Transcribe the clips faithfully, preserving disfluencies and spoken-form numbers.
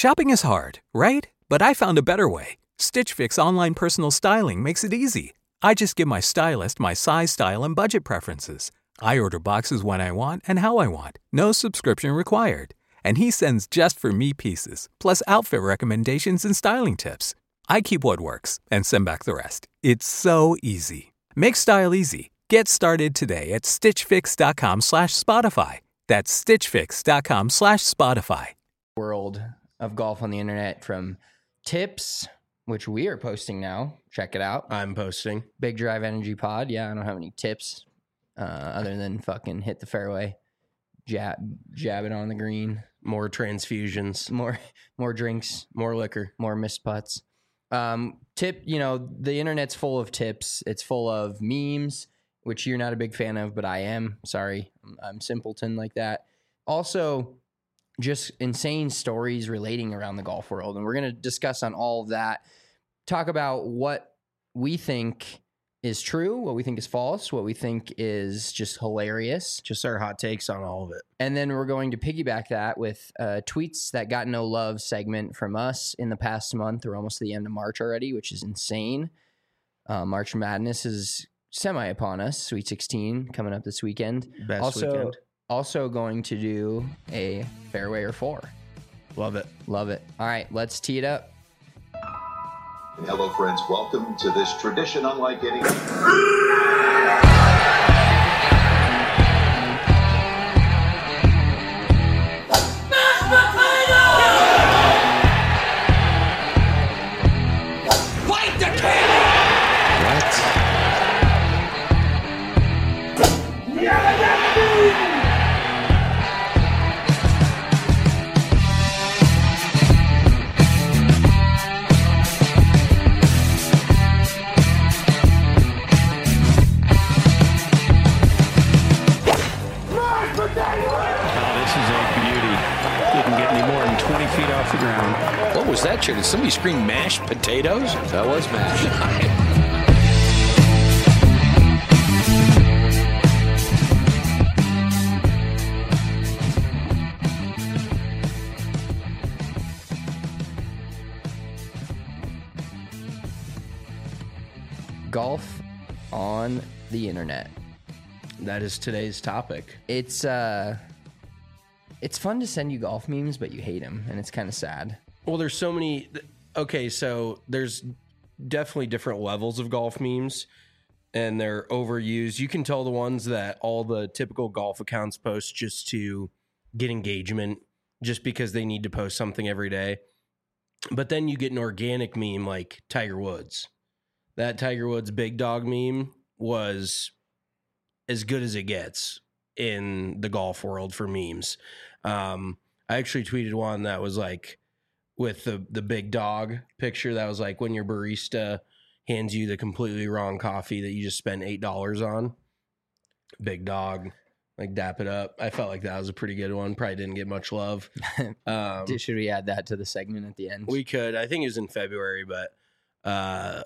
Shopping is hard, right? But I found a better way. Stitch Fix online personal styling makes it easy. I just give my stylist my size, style, and budget preferences. I order boxes when I want and how I want. No subscription required. And he sends just for me pieces, plus outfit recommendations and styling tips. I keep what works and send back the rest. It's so easy. Make style easy. Get started today at stitchfix.com slash Spotify. That's stitchfix.com slash Spotify. World of golf on the internet, from tips, which we are posting now. Check it out. I'm posting. Big Drive Energy Pod. Yeah, I don't have any tips uh, other than fucking hit the fairway, jab, jab it on the green. More transfusions. More more drinks. More liquor. More missed putts. Um, tip, you know, the internet's full of tips. It's full of memes, which you're not a big fan of, but I am. Sorry. I'm, I'm simpleton like that. Also, just insane stories relating around the golf world. And we're going to discuss on all of that, talk about what we think is true, what we think is false, what we think is just hilarious. Just our hot takes on all of it. And then we're going to piggyback that with uh, tweets that got no love segment from us in the past month. We're almost to the end of March already, which is insane. Uh, March Madness is semi upon us. Sweet sixteen coming up this weekend. Best also, weekend. Also going to do a fairway or four. Love it. Love it. All right, let's tee it up. Hello, friends. Welcome to this tradition unlike any. Fight the king! What? Feet off the ground. What was that, chick? Did somebody scream mashed potatoes? That was mashed. Golf on the internet. That is today's topic. It's uh it's fun to send you golf memes, but you hate them, and it's kind of sad. Well, there's so many. Okay, so there's definitely different levels of golf memes, and they're overused. You can tell the ones that all the typical golf accounts post just to get engagement, just because they need to post something every day. But then you get an organic meme like Tiger Woods. That Tiger Woods big dog meme was as good as it gets in the golf world for memes. Um, I actually tweeted one that was like with the, the big dog picture that was like when your barista hands you the completely wrong coffee that you just spent eight dollars on. Big dog, like dap it up. I felt like that was a pretty good one. Probably didn't get much love. Um, Should we add that to the segment at the end? we could. I think it was in February, but uh,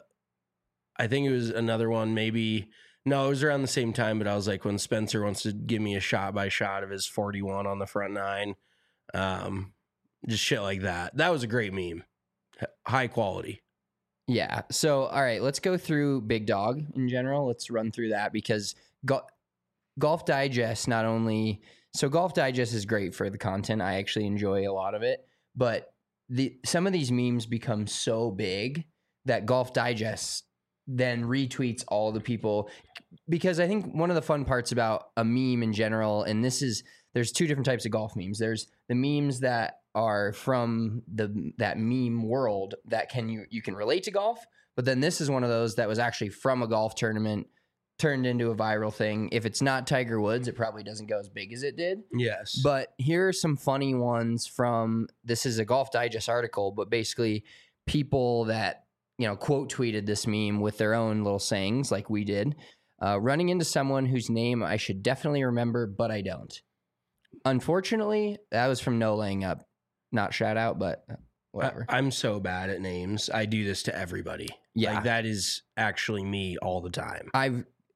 I think it was another one maybe. No, it was around the same time, but I was like, when Spencer wants to give me a shot by shot of his forty-one on the front nine, um, just shit like that. That was a great meme. H- high quality. Yeah. So, all right, let's go through Big Dog in general. Let's run through that because go- Golf Digest not only... So Golf Digest is great for the content. I actually enjoy a lot of it. But the some of these memes become so big that Golf Digest then retweets all the people, because I think one of the fun parts about a meme in general, and this is, there's two different types of golf memes. There's the memes that are from the that meme world that can you you can relate to golf, but then this is one of those that was actually from a golf tournament turned into a viral thing. If it's not Tiger Woods, it probably doesn't go as big as it did. Yes. But here are some funny ones from, this is a Golf Digest article, but basically people that, you know, quote tweeted this meme with their own little sayings like we did. Uh, running into someone whose name I should definitely remember, but I don't. Unfortunately, that was from No Laying Up. Not shout out, but whatever. I, I'm so bad at names. I do this to everybody. Yeah. Like, that is actually me all the time. I've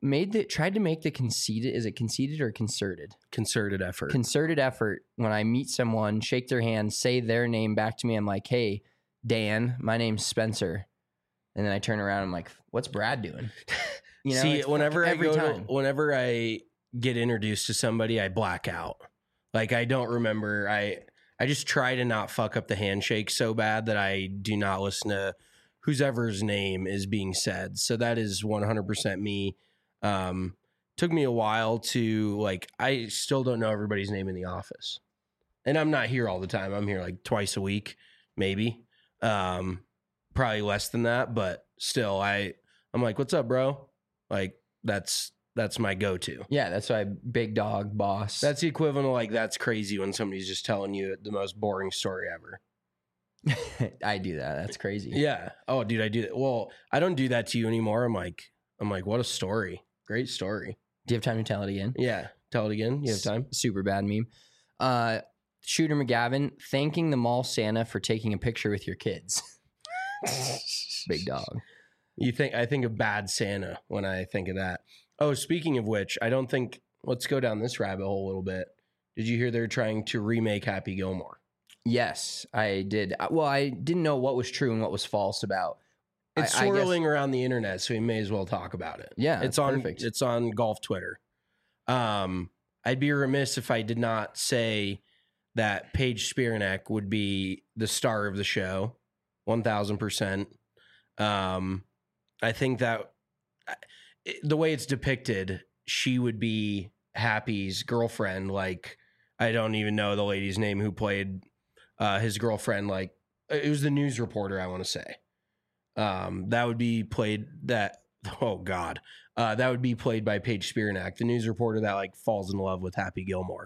made the tried to make the conceited. Is it conceited or concerted? Concerted effort. Concerted effort. When I meet someone, shake their hand, say their name back to me. I'm like, hey, Dan, my name's Spencer. And then I turn around. I'm like, what's Brad doing? You know, See, whenever I every go time. to, whenever I get introduced to somebody, I black out. Like I don't remember. I I just try to not fuck up the handshake so bad that I do not listen to whoever's name is being said. So that is one hundred percent me. Um, took me a while to like, I still don't know everybody's name in the office. And I'm not here all the time. I'm here like twice a week, maybe. Um, probably less than that, but still I, I'm like, what's up, bro? Like that's, that's my go-to. Yeah, that's why big dog boss. That's the equivalent of like, that's crazy when somebody's just telling you the most boring story ever. I do that. That's crazy. Yeah. Oh, dude, I do that. Well, I don't do that to you anymore. I'm like, I'm like, what a story. Great story. Do you have time to tell it again? Yeah. Tell it again. You have time? S- super bad meme. Uh, Shooter McGavin thanking the mall Santa for taking a picture with your kids. Big dog. You think, I think of Bad Santa when I think of that. Oh, speaking of which, I don't think, let's go down this rabbit hole a little bit. Did you hear they're trying to remake Happy Gilmore? Yes, I did. Uh, Well, I didn't know what was true and what was false about. It's I- I guess- swirling around the internet, so we may as well talk about it. Yeah, it's on. perfect. It's on golf Twitter. Um, I'd be remiss if I did not say that Paige Spiranek would be the star of the show, one thousand percent. Um, I think that it, the way it's depicted, she would be Happy's girlfriend. Like, I don't even know the lady's name who played uh, his girlfriend. Like, it was the news reporter, I want to say. Um, that would be played that, oh God, uh, that would be played by Paige Spiranek, the news reporter that like falls in love with Happy Gilmore.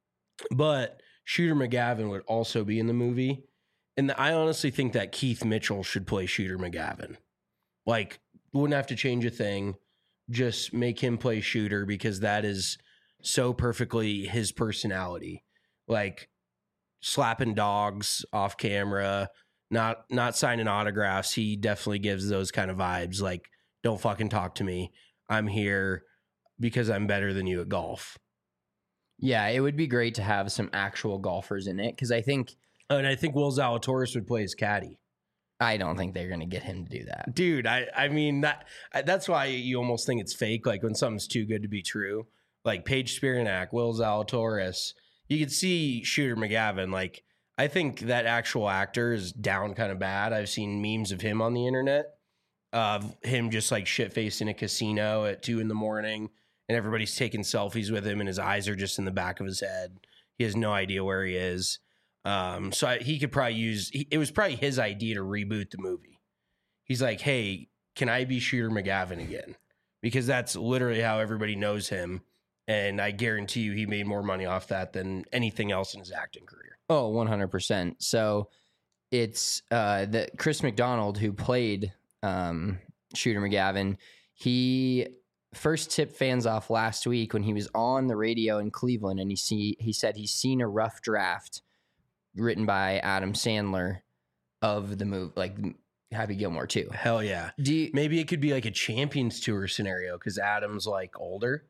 But Shooter McGavin would also be in the movie. And I honestly think that Keith Mitchell should play Shooter McGavin. Like, wouldn't have to change a thing. Just make him play Shooter because that is so perfectly his personality. Like slapping dogs off camera, not not signing autographs. He definitely gives those kind of vibes. Like, don't fucking talk to me. I'm here because I'm better than you at golf. Yeah, it would be great to have some actual golfers in it because I think And I think Will Zalatoris would play his caddy. I don't think they're going to get him to do that. Dude, I, I mean, that that's why you almost think it's fake. Like when something's too good to be true. Like Paige Spiranek, Will Zalatoris. You could see Shooter McGavin. Like, I think that actual actor is down kind of bad. I've seen memes of him on the internet. Of him just like shit-faced in a casino at two in the morning. And everybody's taking selfies with him and his eyes are just in the back of his head. He has no idea where he is. Um, so I, he could probably use, he, it was probably his idea to reboot the movie. He's like, hey, can I be Shooter McGavin again? Because that's literally how everybody knows him. And I guarantee you he made more money off that than anything else in his acting career. Oh, one hundred percent. So it's uh, the Chris McDonald who played um, Shooter McGavin. He first tipped fans off last week when he was on the radio in Cleveland, and he see he said he's seen a rough draft written by Adam Sandler of the movie, like Happy Gilmore too. Hell yeah. Do you, Maybe it could be like a Champions Tour scenario because Adam's like older.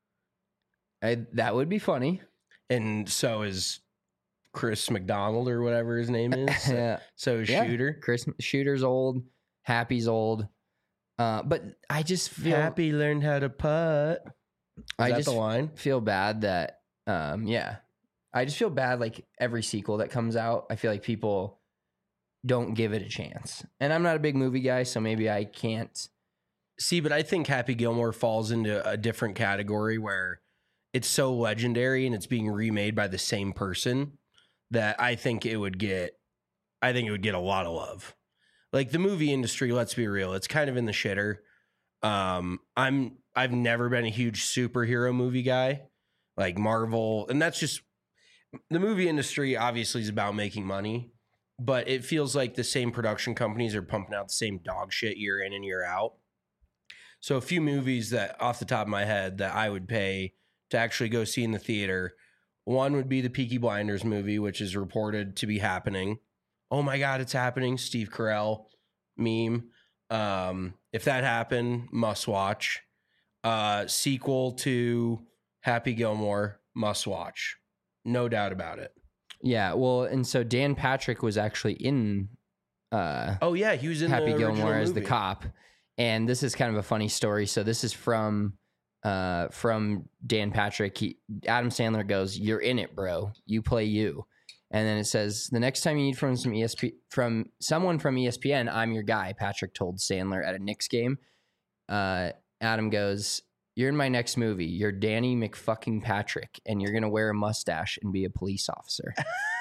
I, that would be funny. And so is Chris McDonald or whatever his name is. So, Yeah. so is Yeah. Shooter. Chris Shooter's old, Happy's old. Uh, but I just feel Happy learned how to putt. Is I that just the line? feel bad that um yeah. I just feel bad like every sequel that comes out, I feel like people don't give it a chance. And I'm not a big movie guy, so maybe I can't. See, but I think Happy Gilmore falls into a different category where it's so legendary and it's being remade by the same person that I think it would get, I think it would get a lot of love. Like the movie industry, let's be real, it's kind of in the shitter. Um, I'm, I've never been a huge superhero movie guy, like Marvel, and that's just, the movie industry obviously is about making money, but it feels like the same production companies are pumping out the same dog shit year in and year out. So a few movies that off the top of my head that I would pay to actually go see in the theater. One would be the Peaky Blinders movie, which is reported to be happening. Oh my God, it's happening. Steve Carell meme. Um, if that happened, must watch. Uh, sequel to Happy Gilmore, must watch. No doubt about it. Yeah, well, and so Dan Patrick was actually in uh, Oh, yeah, he was in Happy the original Gilmore as the movie. cop. And this is kind of a funny story. So this is from uh, from Dan Patrick. He, Adam Sandler goes, "You're in it, bro. You play you." And then it says, "The next time you need from some E S P from someone from E S P N, I'm your guy." Patrick told Sandler at a Knicks game. Uh, Adam goes, "You're in my next movie. You're Danny McFucking Patrick, and you're gonna wear a mustache and be a police officer."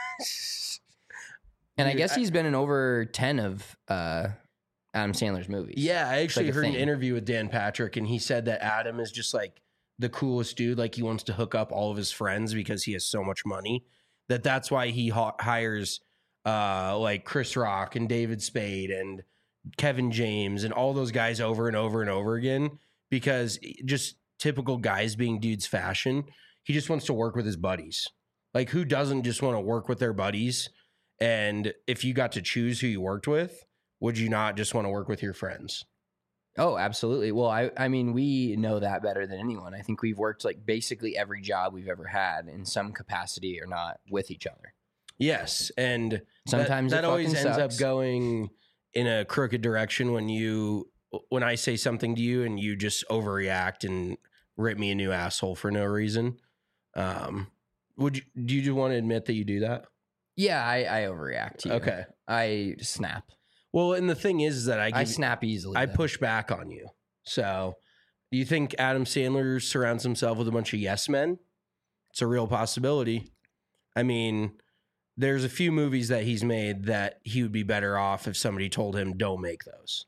And I Dude, guess I- he's been in over ten of uh, Adam Sandler's movies. Yeah, I actually like a heard an thing. interview with Dan Patrick, and he said that Adam is just like the coolest dude. Like he wants to hook up all of his friends because he has so much money. That that's why he ha- hires uh, like Chris Rock and David Spade and Kevin James and all those guys over and over and over again, because just typical guys being dudes fashion. He just wants to work with his buddies. Like who doesn't just want to work with their buddies? And if you got to choose who you worked with, would you not just want to work with your friends? Oh, absolutely. Well, I, I mean, we know that better than anyone. I think we've worked like basically every job we've ever had in some capacity or not with each other. Yes, and Sometimes that, it that always fucking ends sucks. up going in a crooked direction when you when I say something to you and you just overreact and rip me a new asshole for no reason. Um, would you do you want to admit that you do that? Yeah, I, I overreact to you. Okay. I snap. Well, and the thing is that I give, I snap easily. I though. push back on you. So, do you think Adam Sandler surrounds himself with a bunch of yes men? It's a real possibility. I mean, there's a few movies that he's made that he would be better off if somebody told him, don't make those.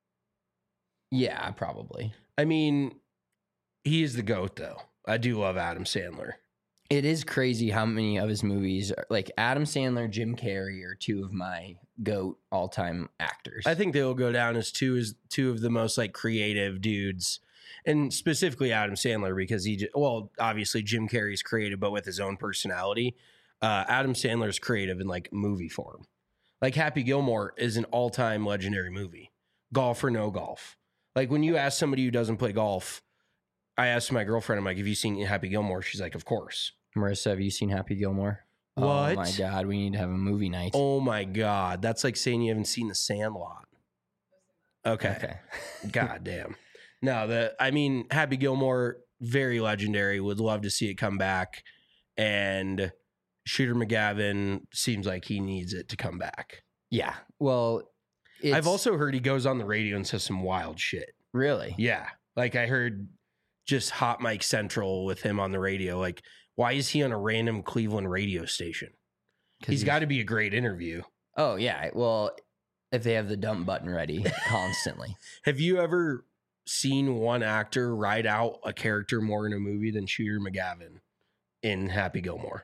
Yeah, probably. I mean, he is the GOAT, though. I do love Adam Sandler. It is crazy how many of his movies, are, like Adam Sandler, Jim Carrey, are two of my GOAT all-time actors. I think they'll go down as two as two of the most like creative dudes, and specifically Adam Sandler because he just, well, obviously Jim Carrey's creative, but with his own personality. Uh, Adam Sandler's creative in like movie form. Like Happy Gilmore is an all-time legendary movie. Golf or no golf. Like when you ask somebody who doesn't play golf, I asked my girlfriend, I'm like, have you seen Happy Gilmore? She's like, of course. Marissa, have you seen Happy Gilmore? Oh What? my God, we need to have a movie night. Oh my God. That's like saying you haven't seen The Sandlot. Okay. Okay. God damn. No, the I mean, Happy Gilmore, very legendary. Would love to see it come back. And Shooter McGavin seems like he needs it to come back. Yeah. Well, it's, I've also heard he goes on the radio and says some wild shit. really. Yeah. Like I heard just Hot Mike Central with him on the radio. Like, why is he on a random Cleveland radio station? 'Cause He's got to be a great interview. Oh yeah. Well, if they have the dump button ready constantly. Have you ever seen one actor write out a character more in a movie than Shooter McGavin in Happy Gilmore?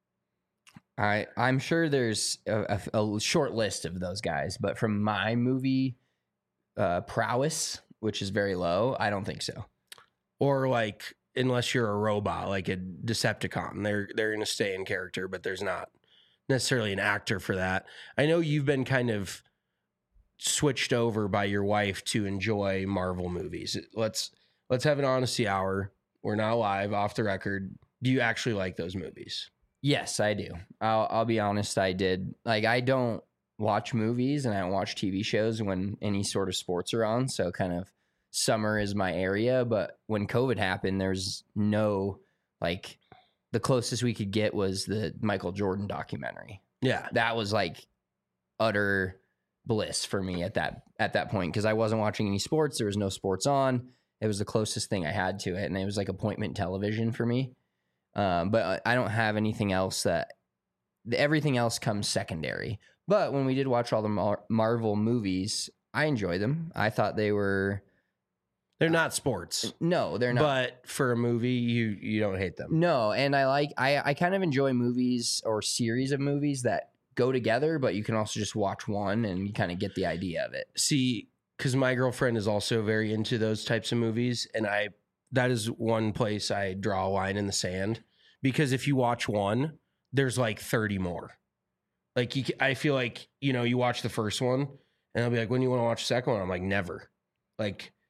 I I'm sure there's a, a, a short list of those guys, but from my movie uh, prowess, which is very low, I don't think so. Or like, unless you're a robot, like a Decepticon, they're they're going to stay in character, but there's not necessarily an actor for that. I know you've been kind of switched over by your wife to enjoy Marvel movies. Let's let's have an honesty hour. We're not live, off the record. Do you actually like those movies? Yes, I do. I'll I'll be honest, I did. Like I don't watch movies and I don't watch T V shows when any sort of sports are on, so kind of summer is my area, but when COVID happened, there's no like the closest we could get was the Michael Jordan documentary. Yeah. That was like utter bliss for me at that at that point because I wasn't watching any sports. There was no sports on. It was the closest thing I had to it, and it was like appointment television for me. Um, but I don't have anything else that everything else comes secondary. But when we did watch all the Mar- Marvel movies, I enjoy them. I thought they were They're not sports. no, they're not. But for a movie, you you don't hate them. No, and I like I I kind of enjoy movies or series of movies that go together, but you can also just watch one and you kind of get the idea of it. See, because my girlfriend is also very into those types of movies, and I that is one place I draw a line in the sand. Because if you watch one, there's like thirty more. Like you, I feel like you know you watch the first one, and I'll be like, when do you want to watch the second one? I'm like, never. Like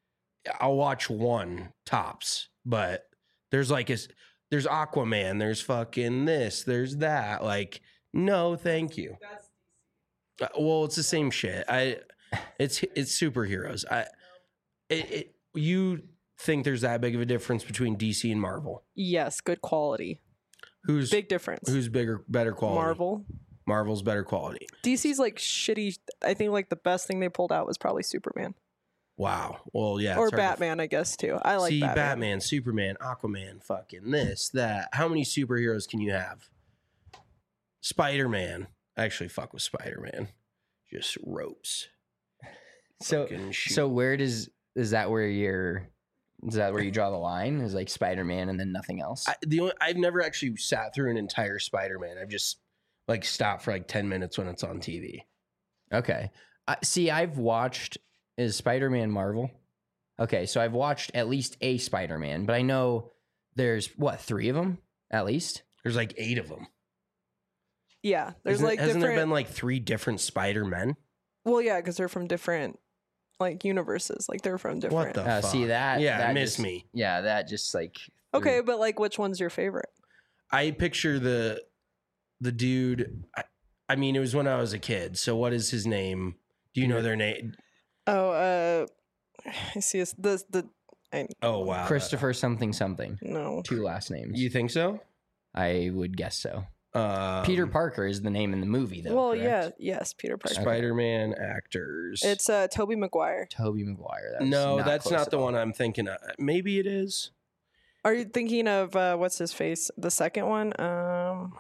I'll watch one tops, but there's like a, there's Aquaman, there's fucking this, there's that. Like, no, thank you. Uh, well, it's the same shit. I, it's it's superheroes. I, it, it you think there's that big of a difference between D C and Marvel? Yes, good quality. Who's Big difference. Who's bigger, better quality? Marvel. Marvel's better quality. D C's like shitty. I think like the best thing they pulled out was probably Superman Wow. Well, yeah. or it's hard to- Batman, I guess too. I like See, Batman. Batman, Superman, Aquaman, fucking this, that. How many superheroes can you have? Spider-Man. I actually fuck with Spider-Man. Just ropes. So, Fucking shoot. so where does is that where you're? Is that where you draw the line? Is like Spider-Man and then nothing else? I, the only, I've never actually sat through an entire Spider-Man. I've just like stopped for like ten minutes when it's on T V. Okay. Uh, see, I've watched is Spider-Man Marvel. Okay, so I've watched at least a Spider-Man, but I know there's what three of them at least. There's like eight of them. Yeah, there's Hasn't, like hasn't different. there been like three different Spider-Men? Well, yeah, because they're from different like universes. Like they're from different. What the Uh, fuck? see that? Yeah, that miss just- me. Yeah, that just like Okay, but like, which one's your favorite? I picture the the dude. I, I mean, it was when I was a kid. So what is his name? Do you know their name? Oh, uh, I see. It's the the. I, Oh wow, Christopher something something. no. Two last names. You think so? I would guess so. Um, Peter Parker is the name in the movie, though. well, correct? yeah, yes, Peter Parker. Spider-Man actors. It's uh Toby Maguire. Toby Maguire. That's no, not that's close not at the all. one I'm thinking of. Maybe it is. Are you thinking of uh what's his face? The second one? Um.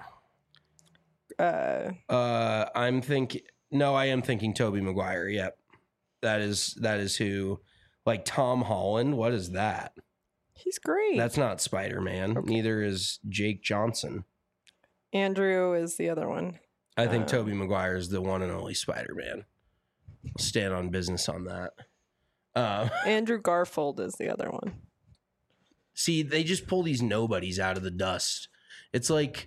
Uh. Uh, I'm thinking. No, I am thinking Toby Maguire. Yep, that is that is who. Like Tom Holland. What is that? He's great. That's not Spider-Man. Okay. Neither is Jake Johnson. Andrew is the other one. I think Um, Toby Maguire is the one and only Spider-Man. I'll stand on business on that. Uh, Andrew Garfield is the other one. see, they just pull these nobodies out of the dust. It's like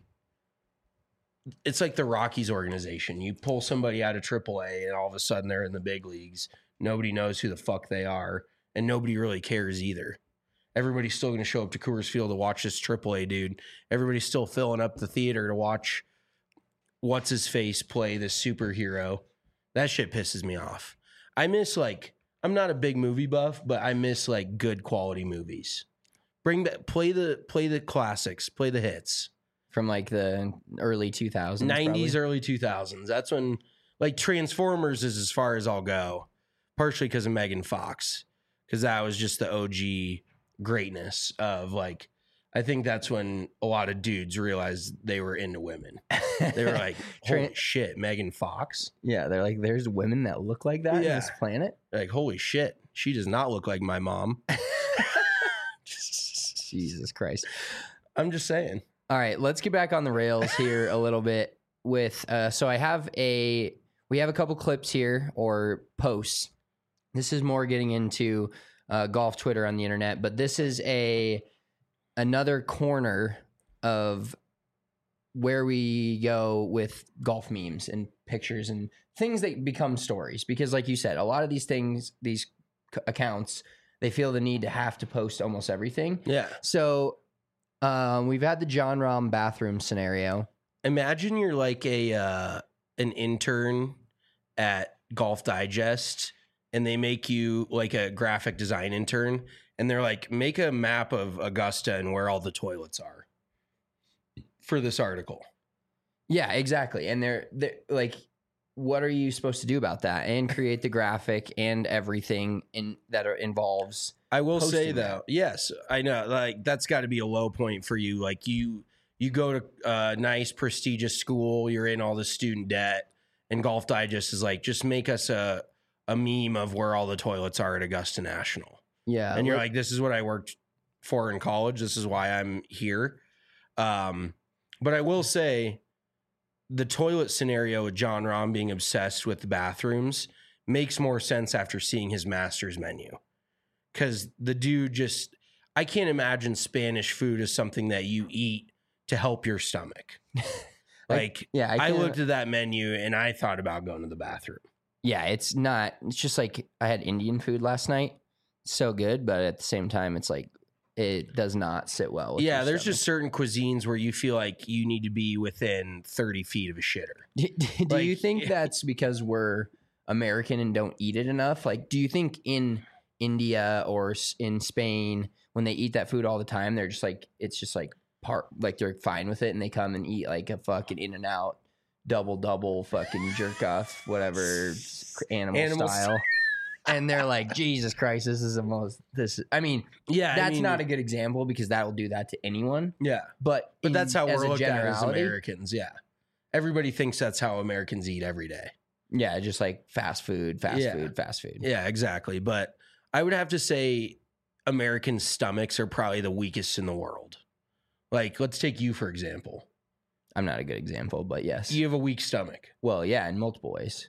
it's like the Rockies organization. You pull somebody out of triple A and all of a sudden they're in the big leagues. Nobody knows who the fuck they are, and nobody really cares either. Everybody's still going to show up to Coors Field to watch this triple A dude. Everybody's still filling up the theater to watch what's his face play this superhero. That shit pisses me off. I miss like I'm not a big movie buff, but I miss like good quality movies. Bring back play the play the classics, play the hits. From like the early two thousands. nineties, early two thousands. That's when like Transformers is as far as I'll go. Partially because of Megan Fox, because that was just the O G greatness of like, I think that's when a lot of dudes realized they were into women. They were like, holy Tran- shit, Megan Fox? Yeah, they're like, there's women that look like that Yeah. on this planet. They're like, holy shit, she does not look like my mom. Jesus Christ. I'm just saying. All right, let's get back on the rails here a little bit with uh so I have a we have a couple clips here or posts. This is more getting into uh, golf Twitter on the internet, but this is a another corner of where we go with golf memes and pictures and things that become stories. Because like you said, a lot of these things, these c- accounts, they feel the need to have to post almost everything. Yeah. So um, we've had the John Rahm bathroom scenario. Imagine you're like a uh, an intern at Golf Digest and they make you like a graphic design intern and they're like, make a map of Augusta and where all the toilets are for this article. Yeah, exactly. And they're, they're like, what are you supposed to do about that? And create the graphic and everything in that are, involves. I will say posting though, that. yes, I know, like that's got to be a low point for you. Like you, you go to a nice prestigious school, you're in all the student debt, and Golf Digest is like, just make us a a meme of where all the toilets are at Augusta National. Yeah. And you're look- like, this is what I worked for in college. This is why I'm here. Um, but I will say the toilet scenario with John Rahm being obsessed with the bathrooms makes more sense after seeing his master's menu. Because the dude just, I can't imagine Spanish food as something that you eat to help your stomach. Like, yeah, I I, can't- looked at that menu and I thought about going to the bathroom. Yeah, it's not. It's just like I had Indian food last night, so good, but at the same time, it's like it does not sit well. With Yeah, your there's stomach. just certain cuisines where you feel like you need to be within thirty feet of a shitter. Do, do you Like- think that's because we're American and don't eat it enough? Like, do you think in India or s- in Spain, when they eat that food all the time, they're just like, it's just like part, like they're fine with it and they come and eat like a fucking In-N-Out double double fucking jerk off, whatever animal, Animal style. And they're like, Jesus Christ, this is the most, this, is, I mean, Yeah, I that's mean, not a good example because that will do that to anyone. Yeah, But, but in- that's how as we're a looked at as generality, Americans. Yeah, everybody thinks that's how Americans eat every day. Yeah, just like fast food, fast Yeah. food, fast food. Yeah, exactly. But I would have to say American stomachs are probably the weakest in the world. Like, let's take you, for example. I'm not a good example, but yes. You have a weak stomach. Well, yeah, in multiple ways.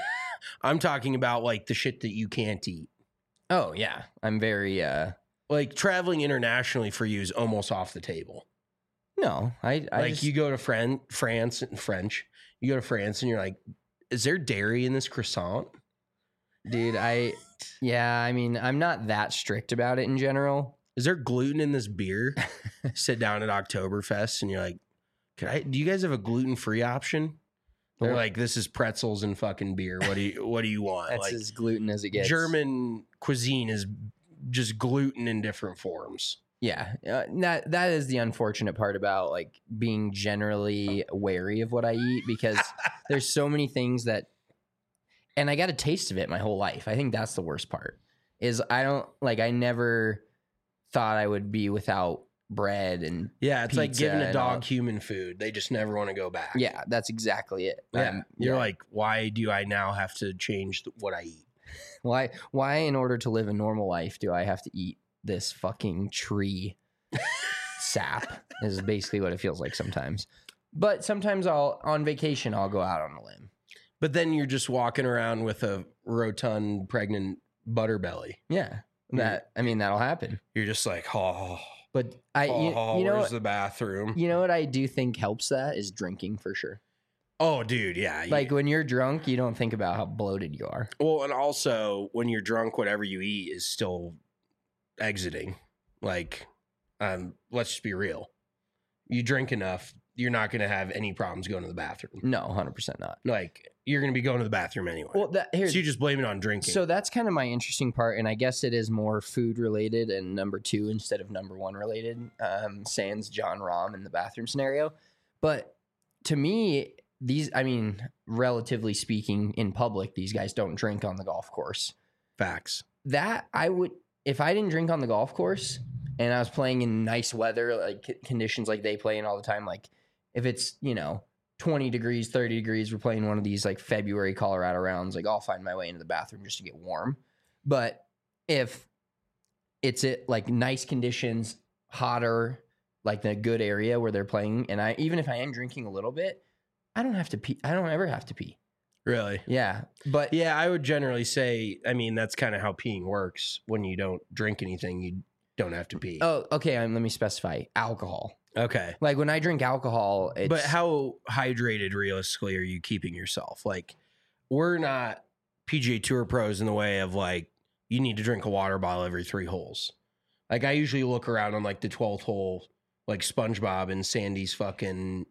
I'm talking about like the shit that you can't eat. Oh, yeah. I'm very, uh, Like traveling internationally for you is almost off the table. no, I, I like just, you go to Fran- France and French, you go to France and you're like, is there dairy in this croissant? dude, I, yeah, I mean, I'm not that strict about it in general. Is there gluten in this beer? Sit down at Oktoberfest and you're like, can I, do you guys have a gluten-free option? They're Well- like, this is pretzels and fucking beer. What do you, what do you want? That's like as gluten as it gets. German cuisine is just gluten in different forms. Yeah. Uh, that, that is the unfortunate part about like being generally wary of what I eat because there's so many things that, and I got a taste of it my whole life. I think that's the worst part is I don't like, I never thought I would be without bread and Yeah, it's like pizza giving a and all- dog human food. They just never want to go back. yeah, that's exactly it. Yeah. Um, You're yeah. like, why do I now have to change th- what I eat? why, why in order to live a normal life do I have to eat this fucking tree sap is basically what it feels like sometimes. But sometimes I'll, on vacation, I'll go out on a limb. But then you're just walking around with a rotund, pregnant butter belly. Yeah. That, I mean, that'll happen. You're just like, oh, But I, oh, you, you know, where's what, the bathroom? you know what I do think helps that is drinking for sure. Oh, dude, yeah. Like when you're drunk, you don't think about how bloated you are. well, and also when you're drunk, whatever you eat is still exiting. Like, um, let's just be real. You drink enough, you're not going to have any problems going to the bathroom. No, one hundred percent not. Like, you're going to be going to the bathroom anyway. Well, that, so here's, you just blame it on drinking. So that's kind of my interesting part, and I guess it is more food related and number two instead of number one related. Um, sans John Rahm in the bathroom scenario, but to me, these, I mean, relatively speaking, in public, these guys don't drink on the golf course. Facts. That I would, if I didn't drink on the golf course and I was playing in nice weather, like c- conditions like they play in all the time, like if it's you know twenty degrees, thirty degrees, we're playing one of these like February Colorado rounds, like I'll find my way into the bathroom just to get warm. But if it's it like nice conditions, hotter, like the good area where they're playing, and I even if I am drinking a little bit, I don't have to pee. I don't ever have to pee. Really? Yeah, but Yeah, I would generally say, I mean, that's kind of how peeing works. When you don't drink anything, you don't have to pee. oh, okay. Um, let me specify alcohol. Okay. Like when I drink alcohol, it's, But how hydrated realistically are you keeping yourself? Like, we're not P G A Tour pros in the way of like, you need to drink a water bottle every three holes. Like, I usually look around on like the twelfth hole, like SpongeBob and Sandy's fucking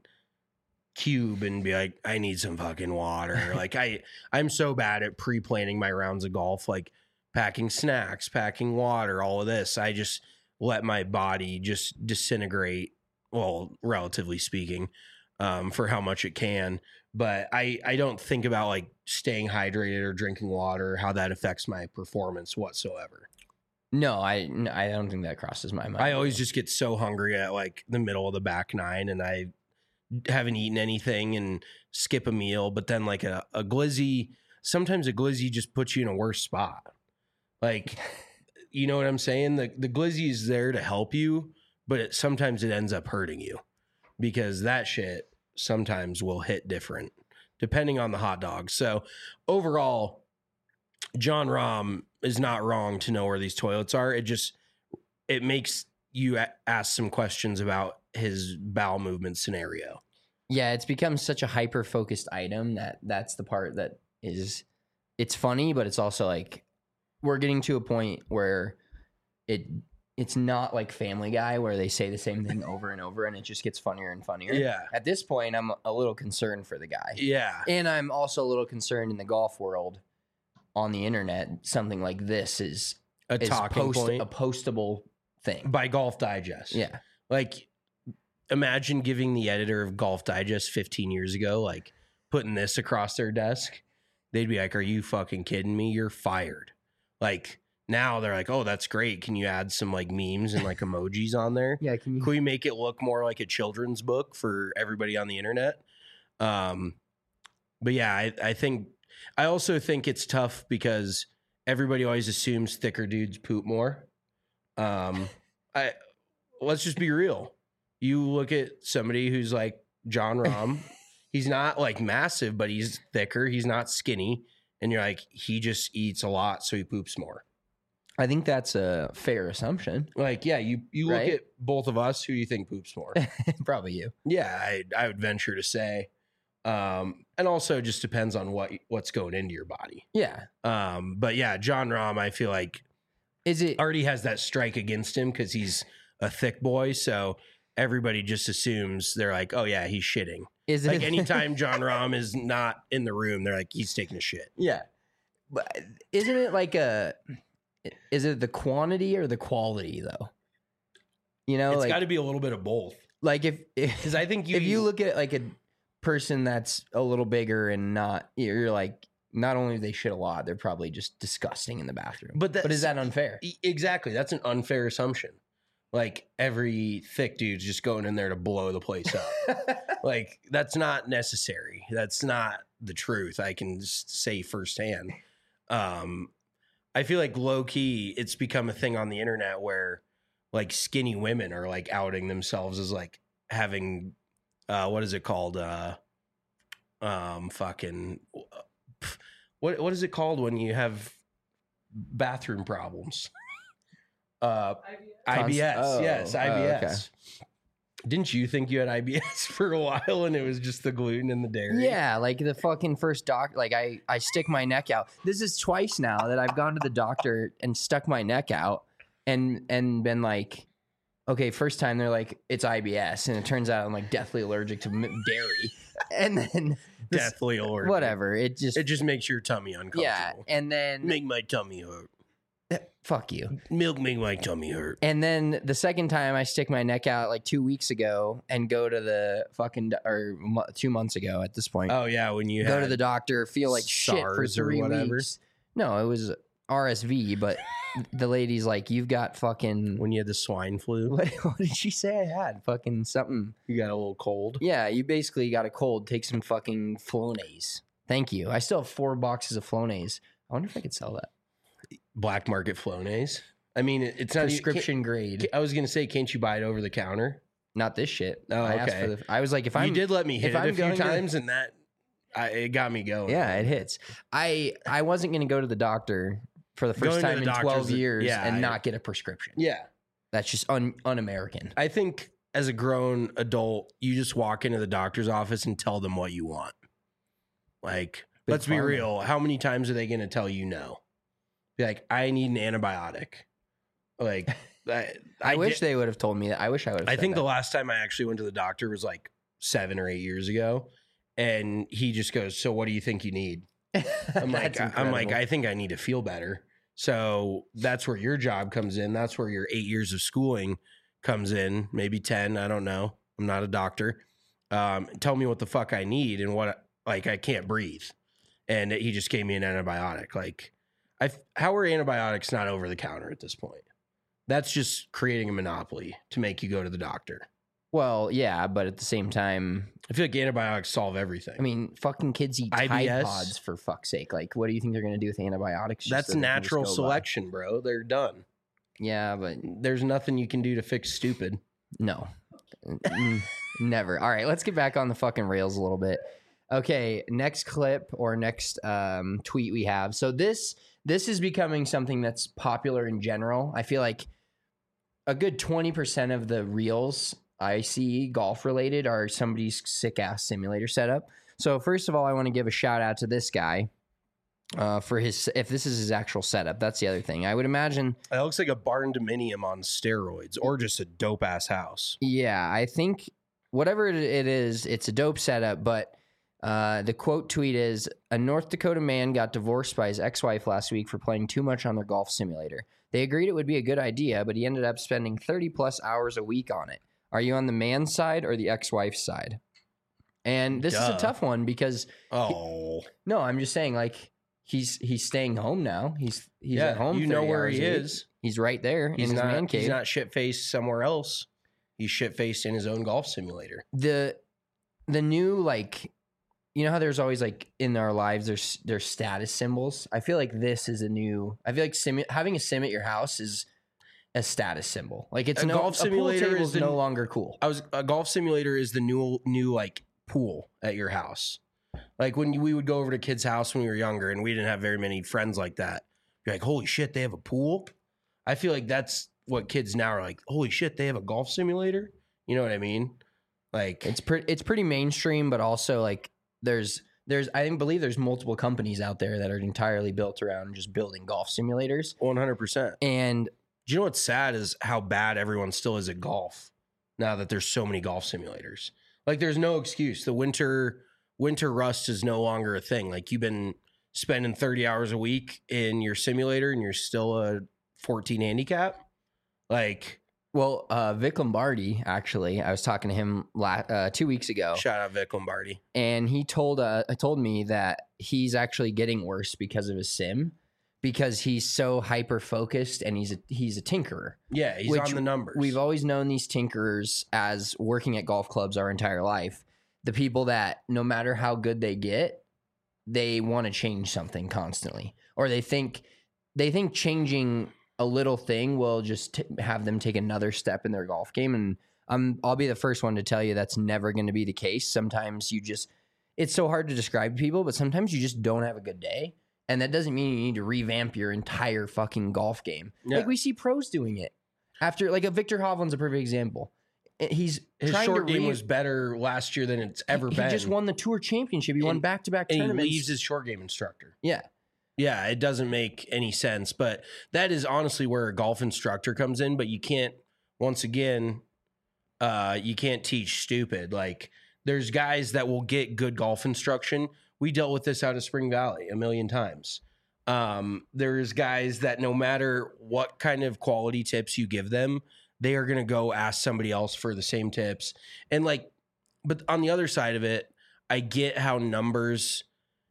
cube and be like, I need some fucking water. like, I, I'm so bad at pre planning my rounds of golf, like packing snacks, packing water, all of this. I just let my body just disintegrate. Well, relatively speaking, um, for how much it can. But I, I don't think about like staying hydrated or drinking water, how that affects my performance whatsoever. no, I, no, I don't think that crosses my mind. I always just get so hungry at like the middle of the back nine and I haven't eaten anything and skip a meal. But then like a, a glizzy, sometimes a glizzy just puts you in a worse spot. Like, you know what I'm saying? The, the glizzy is there to help you, but it, sometimes it ends up hurting you because that shit sometimes will hit different depending on the hot dog. So overall, John Rahm is not wrong to know where these toilets are. It just, it makes you a- ask some questions about his bowel movement scenario. Yeah, it's become such a hyper focused item that that's the part that is, it's funny, but it's also like, we're getting to a point where it it's not like Family Guy where they say the same thing over and over and it just gets funnier and funnier. Yeah. At this point, I'm a little concerned for the guy. Yeah. And I'm also a little concerned in the golf world on the internet. Something like this is A is talking post, point a postable thing. by Golf Digest. Yeah. Like, imagine giving the editor of Golf Digest fifteen years ago, like, putting this across their desk. They'd be like, are you fucking kidding me? You're fired. Like, now they're like, oh, that's great. Can you add some, like, memes and, like, emojis on there? Yeah, can you Can we make it look more like a children's book for everybody on the internet? Um, but yeah, I, I think, I also think it's tough because everybody always assumes thicker dudes poop more. Um, I let's just be real. You look at somebody who's like John Rahm. He's not like massive, but he's thicker. He's not skinny, and you're like, he just eats a lot, so he poops more. I think that's a fair assumption. Like, yeah, you you look Right? at both of us. Who do you think poops more? Probably you. Yeah, I I would venture to say, um, and also just depends on what what's going into your body. Yeah. Um, but yeah, John Rahm, I feel like Is it already has that strike against him because he's a thick boy. So everybody just assumes they're like, oh yeah, he's shitting. is it Like anytime John Rahm is not in the room, they're like, he's taking a shit. Yeah. But isn't it like a is it the quantity or the quality though? You know, It's like got to be a little bit of both. like if Because if, I think you, if you look at like a person that's a little bigger and not you're like not only do they shit a lot, they're probably just disgusting in the bathroom. But but is that's- that unfair? E- Exactly. That's an unfair assumption. Like every thick dude's just going in there to blow the place up. Like that's not necessary. That's not the truth. I can just say firsthand. Um, I feel like low key, it's become a thing on the internet where like skinny women are like outing themselves as like having, uh, what is it called? Uh, um, fucking, what what is it called when you have bathroom problems? Uh, I B S. Oh, yes, oh, I B S. okay. Didn't you think you had I B S for a while and it was just the gluten and the dairy? Yeah, like the fucking first doc. Like I, I stick my neck out. This is twice now that I've gone to the doctor and stuck my neck out, and and been like, okay, first time they're like it's I B S, and it turns out I'm like deathly allergic to m- dairy, and then this- Deathly allergic. whatever. It just It just makes your tummy uncomfortable. yeah, and then Make my tummy hurt. fuck you. Milk make my tummy hurt. And then the second time I stick my neck out like two weeks ago and go to the fucking do- or mo- two months ago at this point. Oh yeah, when you go had to the doctor, feel like shit for SARS or three whatever. weeks. No, it was R S V, but the lady's like, "You've got fucking." when you had the swine flu, What, what did she say? I had fucking something. you got a little cold. Yeah, you basically got a cold. Take some fucking Flonase. Thank you. I still have four boxes of Flonase. I wonder if I could sell that. Black market Flonase. I mean, it- it's not even- Prescription grade. can't- I was gonna say, can't you buy it over the counter? Not this shit. Oh, I asked okay. for the. I was like, if I'm. you did let me hit if it I'm a few going to- times, and that I, it got me going. Yeah, it hits. I I wasn't gonna go to the doctor for the Going first to time the in doctor's twelve a- years yeah, and I- not get a prescription. yeah. That's just un un-American. I think as a grown adult, you just walk into the doctor's office and tell them what you want. Like, Big let's be pharma. real. How many times are they going to tell you no? Be like, I need an antibiotic. Like, I, I, wish did- they would have told me that. I wish I would have. I said think that. the last time I actually went to the doctor was like seven or eight years ago, and he just goes, "So, what do you think you need?" I'm like, That's I'm like, incredible. I think I need to feel better. So that's where your job comes in. That's where your eight years of schooling comes in. Maybe ten. I don't know. I'm not a doctor. Um, tell me what the fuck I need and what like I can't breathe. And he just gave me an antibiotic. Like, I how are antibiotics not over the counter at this point? That's just creating a monopoly to make you go to the doctor. Well, yeah, but at the same time, I feel like antibiotics solve everything. I mean, fucking kids eat I B Tide S? Pods for fuck's sake. Like, what do you think they're gonna do with antibiotics? just that's so they can just natural go by? selection, bro. They're done. Yeah, but There's nothing you can do to fix stupid. no, Mm, never. All right, let's get back on the fucking rails a little bit. Okay, next clip or next um, tweet we have. So this this is becoming something that's popular in general. I feel like a good twenty percent of the reels I see golf related are somebody's sick ass simulator setup. So first of all, I want to give a shout out to this guy. uh, for his if this is his actual setup. That's the other thing. I would imagine. It looks like a barn dominium on steroids, or just a dope ass house. Yeah, I think whatever it is, it's a dope setup. But uh, the quote tweet is: a North Dakota man got divorced by his ex-wife last week for playing too much on their golf simulator. They agreed it would be a good idea, but he ended up spending thirty plus hours a week on it. Are you on the man's side or the ex-wife's side? And this Duh. is a tough one because Oh, he, no, I'm just saying like he's he's staying home now. He's he's yeah, at home. you know thirty where hours he a week. is. He's right there He's in his not. man cave. He's not shit faced somewhere else. He's shit faced in his own golf simulator. the the new like you know how there's always like in our lives there's there's status symbols. I feel like this is a new. I feel like sim, having a sim at your house is a status symbol. Like it's A no golf simulator a pool is table's the- no longer cool. I was a golf simulator is the new new like pool at your house. Like when we would go over to kids' house when we were younger, and we didn't have very many friends like that. You're like, holy shit, they have a pool. I feel like that's what kids now are like. Holy shit, they have a golf simulator. You know what I mean? Like It's pretty it's pretty mainstream, but also like there's there's I think believe there's multiple companies out there that are entirely built around just building golf simulators. one hundred percent. And Do you know what's sad is how bad everyone still is at golf now that there's so many golf simulators. Like there's no excuse. The winter winter rust is no longer a thing. Like you've been spending thirty hours a week in your simulator and you're still a fourteen handicap. Like well, uh, Vic Lombardi actually, I was talking to him la- uh, two weeks ago. shout out Vic Lombardi. And he told uh told me that he's actually getting worse because of his sim, because he's so hyper focused and he's a he's a tinkerer. Yeah, he's Which on the numbers. We've always known these tinkerers as working at golf clubs our entire life. The people that no matter how good they get, they want to change something constantly, or they think they think changing a little thing will just t- have them take another step in their golf game. And I'm I'll be the first one to tell you that's never going to be the case. Sometimes you just it's so hard to describe to people, but sometimes you just don't have a good day. And that doesn't mean you need to revamp your entire fucking golf game. Yeah. Like we see pros doing it. After like a Victor Hovland's a perfect example. He's His trying short to game re- was better last year than it's ever he, been. He just won the tour championship. He won And- back to back and he tournaments. leaves his short game instructor. yeah. Yeah, it doesn't make any sense, but that is honestly where a golf instructor comes in, but you can't once again uh you can't teach stupid. Like there's guys that will get good golf instruction. We dealt with this out of Spring Valley a million times. Um there's guys that no matter what kind of quality tips you give them, they are going to go ask somebody else for the same tips. And like but on the other side of it, I get how numbers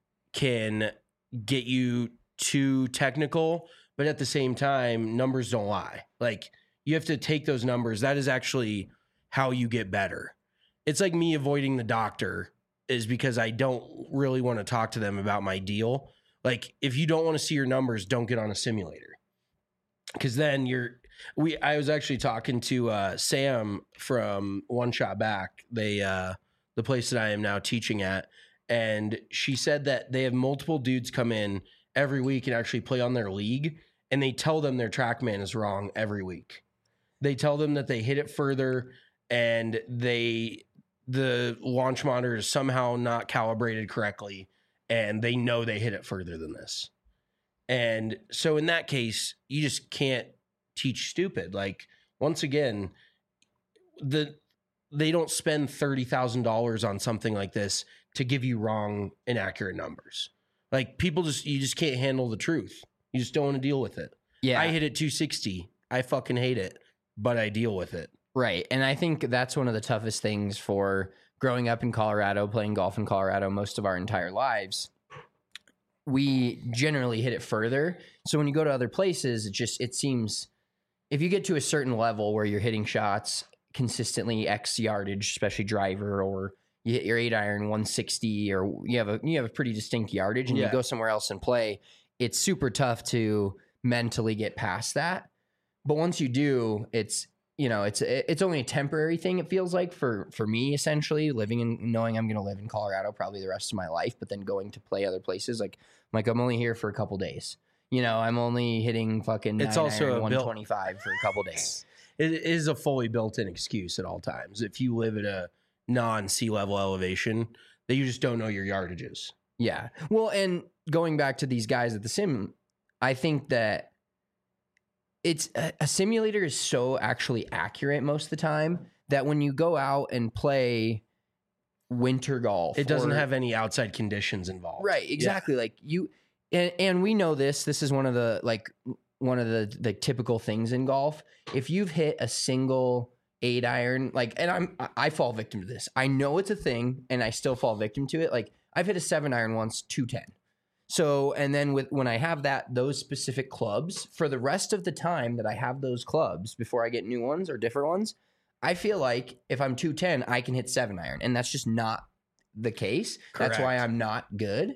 can get you too technical, but at the same time, numbers don't lie. Like you have to take those numbers. That is actually how you get better. It's like me avoiding the doctor is because I don't really want to talk to them about my deal. Like if you don't want to see your numbers, don't get on a simulator. Cause then you're, we, I was actually talking to uh, Sam from One Shot Back. They, uh, the place that I am now teaching at. And she said that they have multiple dudes come in every week and actually play on their league. And they tell them their TrackMan is wrong every week. They tell them that they hit it further and they, the launch monitor is somehow not calibrated correctly. And they know they hit it further than this. And so in that case, you just can't teach stupid. Like once again, the, they don't spend thirty thousand dollars on something like this to give you wrong, inaccurate numbers. Like people just, you just can't handle the truth. You just don't want to deal with it. Yeah. I hit it two sixty. I fucking hate it, but I deal with it. Right. And I think that's one of the toughest things for growing up in Colorado, playing golf in Colorado most of our entire lives. We generally hit it further. So when you go to other places, it just, it seems if you get to a certain level where you're hitting shots consistently X yardage, especially driver, or you hit your eight iron one sixty, or you have a you have a pretty distinct yardage, and Yeah. you go somewhere else and play, it's super tough to mentally get past that. But once you do, it's you know it's it's only a temporary thing. It feels like for for me, essentially living in knowing I'm going to live in Colorado probably the rest of my life, but then going to play other places, like like I'm only here for a couple days. You know, I'm only hitting fucking It's nine also iron a one built- twenty-five for a couple days. It is a fully built-in excuse at all times. If you live at a non-sea level elevation, that you just don't know your yardages. Yeah. Well, and going back to these guys at the sim, I think that it's a, a simulator is so actually accurate most of the time that when you go out and play winter golf, It doesn't or- have any outside conditions involved. right, exactly. Like you, and, and we know this. This is one of the like one of the the typical things in golf. If you've hit a single eight iron, like, and I'm I fall victim to this. I know it's a thing, and I still fall victim to it. Like I've hit a seven iron once, two ten. So, and then with when I have that those specific clubs for the rest of the time that I have those clubs before I get new ones or different ones, I feel like if I'm two ten, I can hit seven iron, and that's just not the case. That's why Correct. I'm not good.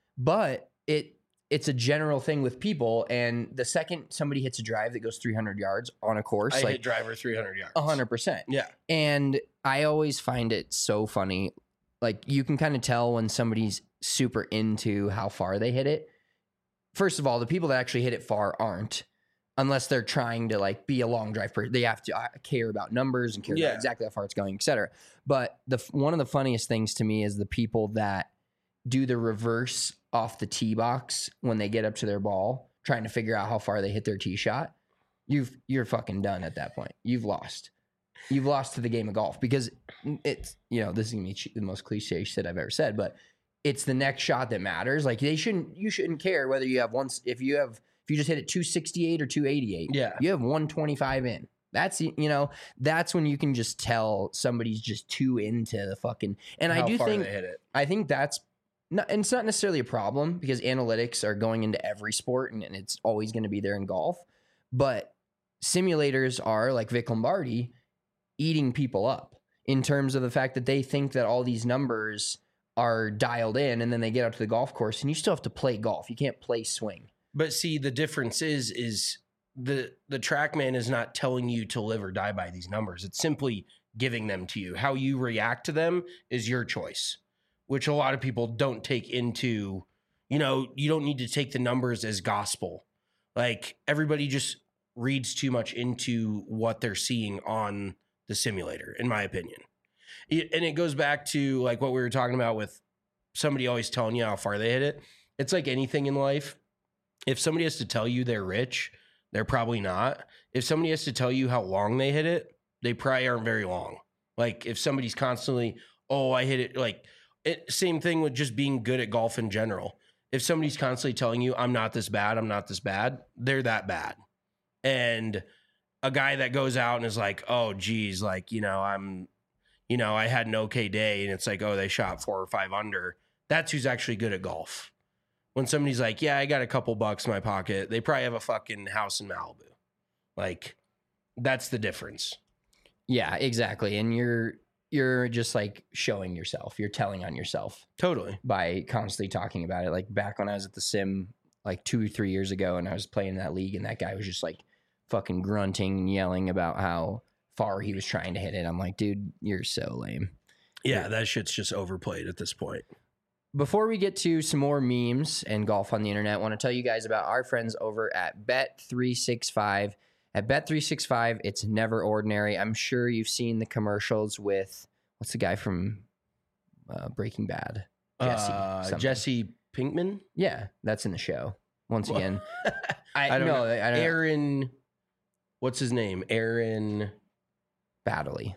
But it it's a general thing with people, and the second somebody hits a drive that goes three hundred yards on a course, I like hit driver three hundred yards. one hundred percent. Yeah. And I always find it so funny. Like you can kind of tell when somebody's super into how far they hit it. First of all, the people that actually hit it far aren't, unless they're trying to like be a long drive person. They have to uh, care about numbers and care Yeah. about exactly how far it's going, et cetera. But the one of the funniest things to me is the people that do the reverse off the tee box when they get up to their ball, trying to figure out how far they hit their tee shot. You've you're fucking done at that point. You've lost. You've lost to the game of golf because it's, you know, this is gonna be the most cliche shit I've ever said, but it's the next shot that matters. Like they shouldn't, you shouldn't care whether you have once, if you have, if you just hit it two sixty-eight or two eighty-eight, Yeah. you have one twenty-five in. That's, you know, that's when you can just tell somebody's just too into the fucking, and How I do far think, they hit it. I think that's not, and it's not necessarily a problem because analytics are going into every sport and, and it's always going to be there in golf. But simulators are like Vic Lombardi eating people up in terms of the fact that they think that all these numbers are dialed in, and then they get out to the golf course and you still have to play golf. You can't play swing. But see, the difference is is the the TrackMan is not telling you to live or die by these numbers. It's simply giving them to you. How you react to them is your choice, which a lot of people don't take into, you know, you don't need to take the numbers as gospel. Like everybody just reads too much into what they're seeing on the simulator, in my opinion. It, and it goes back to like what we were talking about with somebody always telling you how far they hit it. It's like anything in life. If somebody has to tell you they're rich, they're probably not. If somebody has to tell you how long they hit it, they probably aren't very long. Like if somebody's constantly, oh, I hit it, like it, same thing with just being good at golf in general. If somebody's constantly telling you, I'm not this bad, I'm not this bad, they're that bad. And a guy that goes out and is like, oh, geez, like, you know, I'm, you know, I had an okay day, and it's like, oh, they shot four or five under. That's who's actually good at golf. When somebody's like, yeah, I got a couple bucks in my pocket, they probably have a fucking house in Malibu. Like, that's the difference. Yeah, exactly. And you're you're just like showing yourself. You're telling on yourself Totally. by constantly talking about it. Like back when I was at the sim like two or three years ago and I was playing in that league and that guy was just like fucking grunting and yelling about how far he was trying to hit it. I'm like, dude, you're so lame. Yeah, that shit's just overplayed at this point. Before we get to some more memes and golf on the internet, I want to tell you guys about our friends over at Bet three sixty-five. At Bet three sixty-five, it's never ordinary. I'm sure you've seen the commercials with, what's the guy from uh, Breaking Bad? Jesse. Uh, something. Jesse Pinkman? Yeah, that's in the show. Once Well, again. I don't no, know. I don't know. Aaron, what's his name? Aaron. Badly.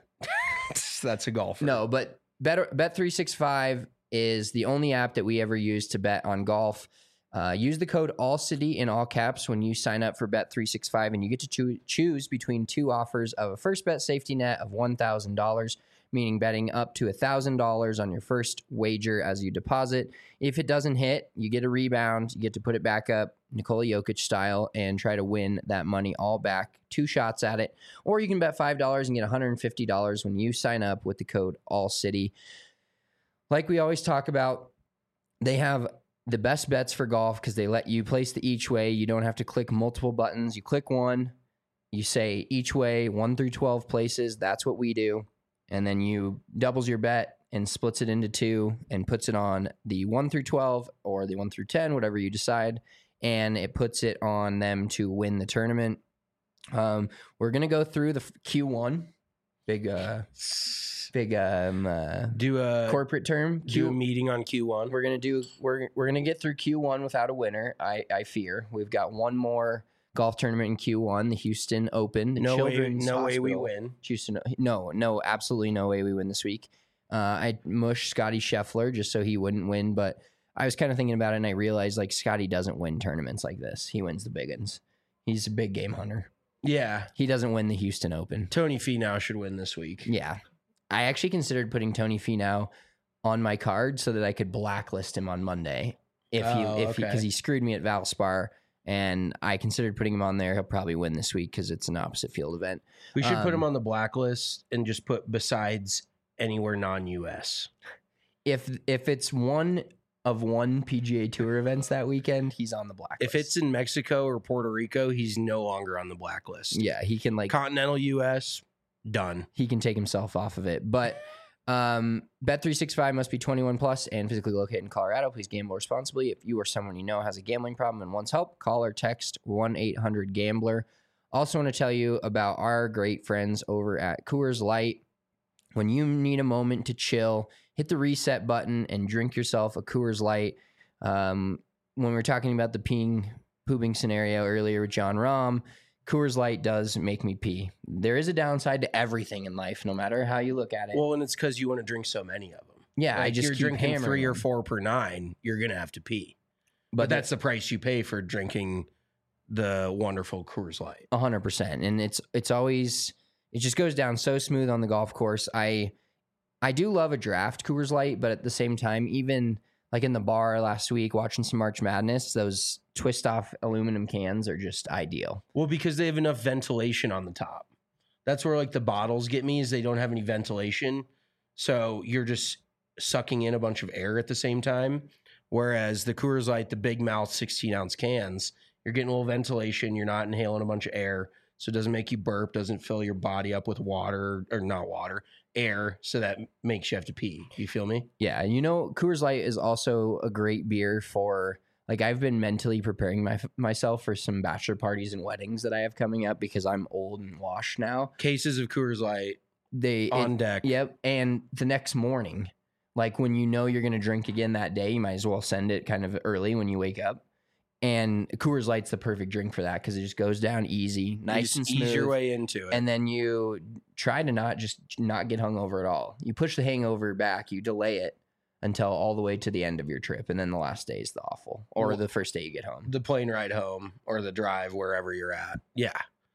That's a golfer. No, but Bet Bet three sixty-five is the only app that we ever use to bet on golf. Uh, use the code ALLCITY in all caps when you sign up for Bet three sixty-five, and you get to choo- choose between two offers of a first bet safety net of one thousand dollars, meaning betting up to one thousand dollars on your first wager as you deposit. If it doesn't hit, you get a rebound. You get to put it back up, Nikola Jokic style, and try to win that money all back. Two shots at it. Or you can bet five dollars and get one hundred fifty dollars when you sign up with the code ALLCITY. Like we always talk about, they have the best bets for golf because they let you place the each way. You don't have to click multiple buttons. You click one, you say each way, one through twelve places. That's what we do. And then you doubles your bet and splits it into two and puts it on the one through twelve or the one through ten, whatever you decide. And it puts it on them to win the tournament. Um, we're going to go through the Q one. Big, uh, big um, uh, Do a corporate term. do a Q, meeting on Q one. we're gonna do. We're we're gonna get through Q one without a winner. I I fear we've got one more golf tournament in Q one, the Houston Open. The No way, Children's no way we Hospital. win. Houston, no, no, absolutely no way we win this week. Uh, I mushed Scotty Scheffler just so he wouldn't win, but I was kind of thinking about it and I realized like Scotty doesn't win tournaments like this. He wins the big ones. He's a big game hunter. Yeah, He doesn't win the Houston Open. Tony Finau should win this week. Yeah. I actually considered putting Tony Finau on my card so that I could blacklist him on Monday if he, Oh, if he, okay. because he screwed me at Valspar. And I considered putting him on there. He'll probably win this week because it's an opposite field event. We should put him Um, on the blacklist and just put besides anywhere non-U S. If if it's one of one P G A Tour events that weekend, he's on the blacklist. If it's in Mexico or Puerto Rico, he's no longer on the blacklist. yeah, he can like Continental U S, done. he can take himself off of it. But um, Bet three sixty-five must be twenty-one plus and physically located in Colorado. Please gamble responsibly. If you or someone you know has a gambling problem and wants help, call or text one eight hundred gambler. Also want to tell you about our great friends over at Coors Light. When you need a moment to chill, hit the reset button and drink yourself a Coors Light. Um, when we were talking about the peeing, pooping scenario earlier with John Rahm, Coors Light does make me pee. There is a downside to everything in life, no matter how you look at it. Well, and it's because you want to drink so many of them. yeah, I Like, just you're keep drinking hammering three or them. four per nine. You're gonna have to pee, but, But that's the price you pay for drinking the wonderful Coors Light. A hundred percent, and it's it's always it just goes down so smooth on the golf course. I I do love a draft Coors Light, but at the same time, even like in the bar last week watching some March Madness, those twist off aluminum cans are just ideal. Well, because they have enough ventilation on the top. That's where like the bottles get me is they don't have any ventilation, so you're just sucking in a bunch of air at the same time. Whereas the Coors Light, the big mouth sixteen ounce cans, you're getting a little ventilation. You're not inhaling a bunch of air. So it doesn't make you burp, doesn't fill your body up with water or not water, air. So that makes you have to pee. You feel me? Yeah, you know, Coors Light is also a great beer for like I've been mentally preparing my, myself for some bachelor parties and weddings that I have coming up because I'm old and washed now. Cases of Coors Light They on it- deck. Yep, and the next morning, like when you know you're going to drink again that day, you might as well send it kind of early when you wake up. And Coors Light's the perfect drink for that because it just goes down easy, You nice just and smooth. ease your way into it. And then you try to not just not get hungover at all. You push the hangover back, you delay it until all the way to the end of your trip, and then the last day is the awful, or Well, the first day you get home. the plane ride home or the drive wherever you're at. Yeah.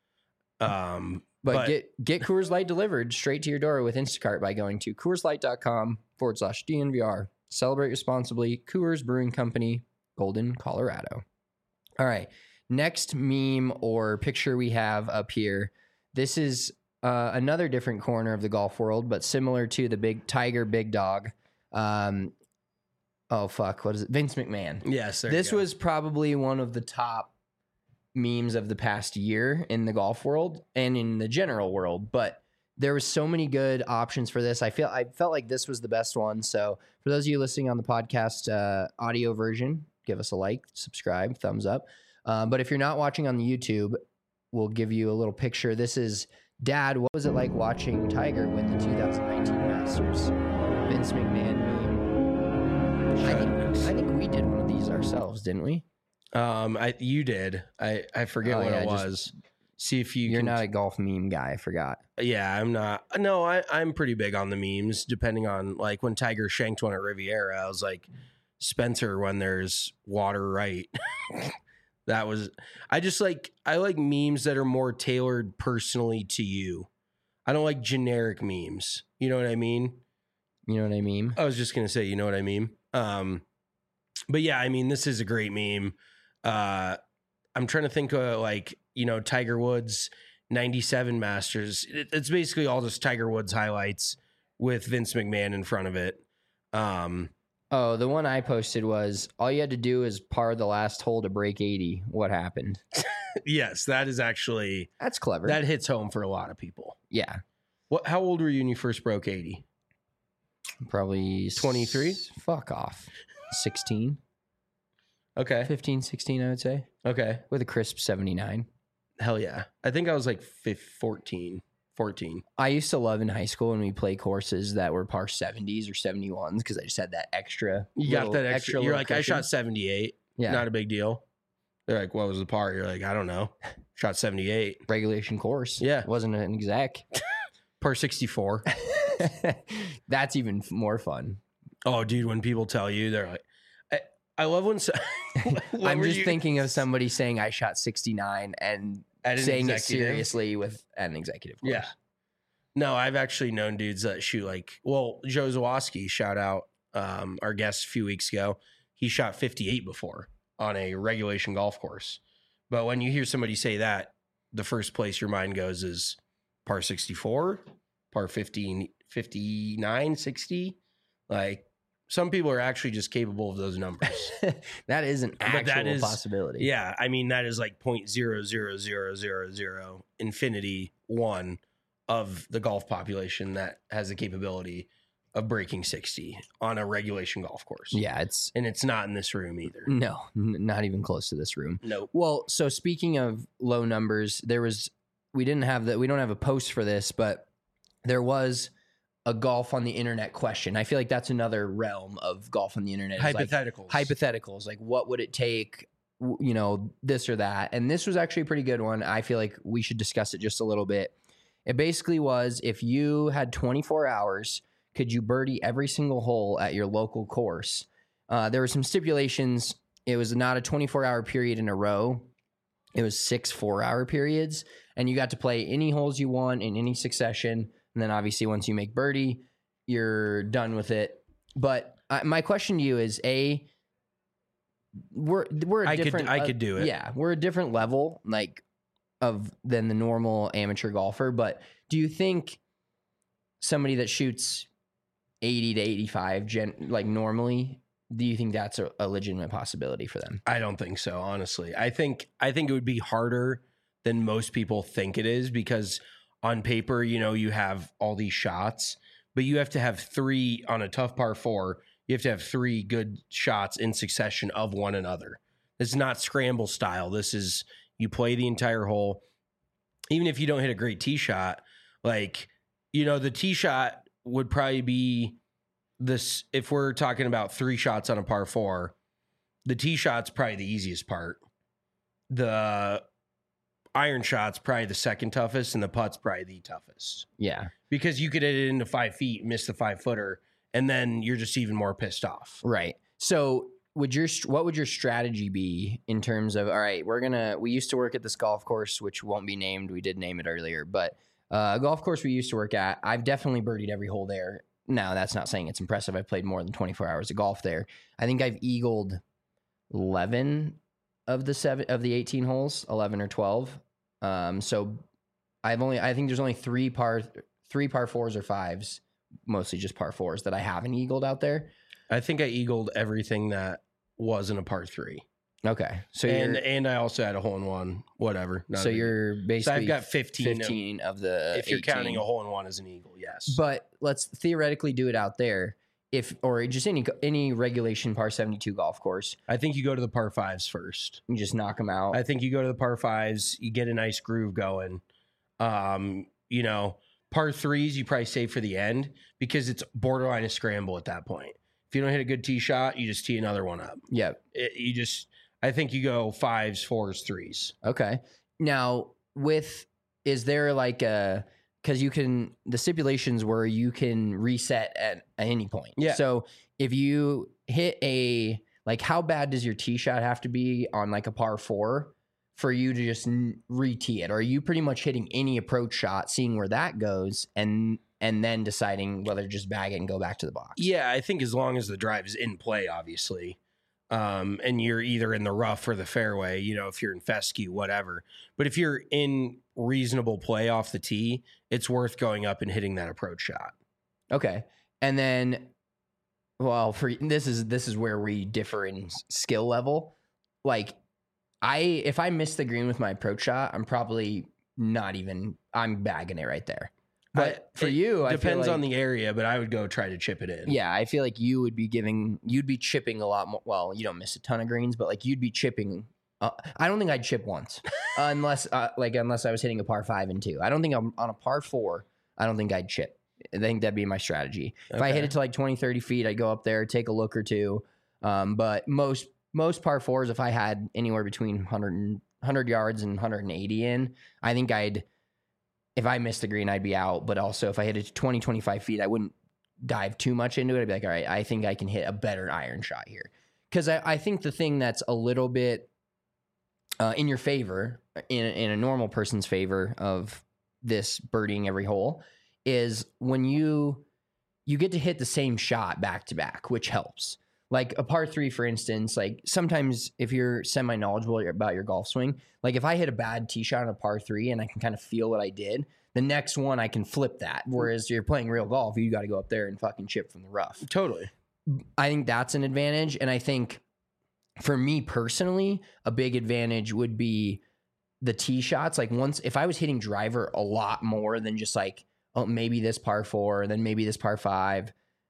Um, But, but- get get Coors Light delivered straight to your door with Instacart by going to CoorsLight.com forward slash DNVR. Celebrate responsibly. Coors Brewing Company, Golden, Colorado. All right. Next meme or picture we have up here. This is uh, another different corner of the golf world, but similar to the big Tiger Big Dog. Um, oh, fuck. What is it? Vince McMahon. yes, there This you go. was probably one of the top memes of the past year in the golf world and in the general world, but there was so many good options for this. I feel I felt like this was the best one. So for those of you listening on the podcast uh, audio version, give us a like, subscribe, thumbs up. Uh, but if you're not watching on the YouTube, we'll give you a little picture. This is Dad. What was it like watching Tiger win the two thousand nineteen Masters? Vince McMahon meme. I think I think we did one of these ourselves, didn't we? Um, I you did. I I forget Oh, what yeah, it just- was. See if you. You're can- not a golf meme guy. I forgot. Yeah, I'm not. No, I I'm pretty big on the memes. Depending on like when Tiger shanked one at Riviera, I was like Spencer when there's water right. That was. I just like I like memes that are more tailored personally to you. I don't like generic memes. You know what I mean? You know what I mean? I was just gonna say, you know what I mean. Um, but yeah, I mean, this is a great meme. Uh, I'm trying to think of like you know Tiger Woods ninety-seven Masters. It, it's basically all just Tiger Woods highlights with Vince McMahon in front of it. Um, Oh, the one I posted was all you had to do is par the last hole to break eighty. What happened? yes, that is actually That's clever. that hits home for a lot of people. yeah, What? How old were you when you first broke eighty? probably s- twenty-three? Fuck off. sixteen, Okay, fifteen, sixteen, I would say, okay, with a crisp seventy-nine. hell yeah. I think I was like fif- fourteen, fourteen. I used to love in high school when we play courses that were par seventies or seventy-ones because I just had that extra. You little, got that extra. You're little like, I cushion. shot seventy-eight. Yeah. Not a big deal. They're like, what was the par? You're like, I don't know. Shot seventy-eight. regulation course. Yeah. It wasn't an exec. Par sixty-four. That's even f- more fun. Oh, dude, when people tell you, they're like, I, I love when. So, what I'm were just you- thinking of somebody saying I shot sixty-nine and At an saying it executive? seriously with an executive course. Yeah. No, I've actually known dudes that shoot like, well, Joe Zawoski, shout out um, our guest a few weeks ago. He shot fifty-eight before on a regulation golf course. But when you hear somebody say that, the first place your mind goes is par sixty-four, par fifteen, fifty-nine, sixty. Like some people are actually just capable of those numbers. That is an But actual that is- possibility. Yeah. I mean, that is like point zero zero zero zero zero infinity one of the golf population that has the capability of breaking sixty on a regulation golf course. Yeah, it's And it's not in this room either. no, n- not even close to this room. Nope. Well, so speaking of low numbers, there was we didn't have that we don't have a post for this, but there was a golf on the internet question. I feel like that's another realm of golf on the internet. It's like Hypotheticals. hypotheticals, like what would it take, w- you know, this or that. And this was actually a pretty good one. I feel like we should discuss it just a little bit. It basically was if you had twenty-four hours, could you birdie every single hole at your local course? Uh, there were some stipulations. It was not a twenty-four hour period in a row. It was six four hour periods, and you got to play any holes you want in any succession. And then obviously once you make birdie, you're done with it. But uh, my question to you is, A, we're we're a I could- different I uh, could do it. Yeah, we're a different level like of than the normal amateur golfer, but do you think somebody that shoots eighty to eighty-five gen like normally, do you think that's a, a legitimate possibility for them? I don't think so, honestly. I think I think it would be harder than most people think it is because on paper, you know, you have all these shots, but you have to have three on a tough par four. You have to have three good shots in succession of one another. It's not scramble style. This is you play the entire hole. Even if you don't hit a great tee shot, like, you know, the tee shot would probably be this. If we're talking about three shots on a par four, the tee shot's probably the easiest part. The iron shot's probably the second toughest, and the putt's probably the toughest Yeah. because you could hit it into five feet, miss the five footer, and then you're just even more pissed off. Right. So would your what would your strategy be in terms of, all right, we're gonna we used to work at this golf course, which won't be named. We did name it earlier, but uh, a golf course we used to work at, I've definitely birdied every hole there. Now that's not saying it's impressive. I've played more than twenty-four hours of golf there. I think I've eagled eleven of the seven of the eighteen holes, eleven or twelve. Um, so I've only I think there's only three par three par fours or fives, mostly just par fours that I haven't eagled out there. I think I eagled everything that wasn't a par three. Okay, so and you're and I also had a hole in one, whatever. not so a big- you're so basically I've got fifteen. of- fifteen of the if you're eighteen. counting a hole in one as an eagle, yes. But let's theoretically do it out there, if or just any any regulation par seventy-two golf course. I think you go to the par fives first. You just knock them out. I think you go to the par fives, you get a nice groove going. Um, you know, par threes you probably save for the end because it's borderline a scramble at that point. If you don't hit a good tee shot, you just tee another one up. yeah. It, you just, I think you go fives, fours, threes. Okay. Now, with is there like a because you can the stipulations where you can reset at, at any point. Yeah. So if you hit a like, how bad does your tee shot have to be on like a par four for you to just n- re-tee it? Or are you pretty much hitting any approach shot, seeing where that goes, and and then deciding whether to just bag it and go back to the box? Yeah, I think as long as the drive is in play, obviously, um, and you're either in the rough or the fairway, you know, if you're in fescue, whatever. But if you're in reasonable play off the tee, it's worth going up and hitting that approach shot. Okay. And then, well, for this is this is where we differ in s- skill level. Like, I if I miss the green with my approach shot, I'm probably not even. I'm bagging it right there. But I- for it you, I feel depends like, on the area, but I would go try to chip it in. yeah, I feel like you would be giving, you'd be chipping a lot more. Well, you don't miss a ton of greens, but like you'd be chipping Uh, I don't think I'd chip once, unless uh, like unless I was hitting a par five and two. I don't think I'm on a par four. I don't think I'd chip. I think that'd be my strategy. If I hit Okay. it to like twenty, thirty feet, I'd go up there, take a look or two. Um, but most most par fours, if I had anywhere between one hundred, and, one hundred yards and one hundred eighty in, I think I'd, if I missed the green, I'd be out. But also if I hit it to twenty, twenty-five feet, I wouldn't dive too much into it. I'd be like, all right, I think I can hit a better iron shot here. Because I, I think the thing that's a little bit uh, in your favor, in, in a normal person's favor of this birdieing every hole, is when you you get to hit the same shot back to back, which helps. Like a par three, for instance, like sometimes if you're semi-knowledgeable about your golf swing, like if I hit a bad tee shot on a par three and I can kind of feel what I did, the next one I can flip that. Whereas you're playing real golf, you got to go up there and fucking chip from the rough. Totally. I think that's an advantage. And I think for me personally, a big advantage would be the tee shots. Like once, if I was hitting driver a lot more than just like, oh, maybe this par four, then maybe this par five,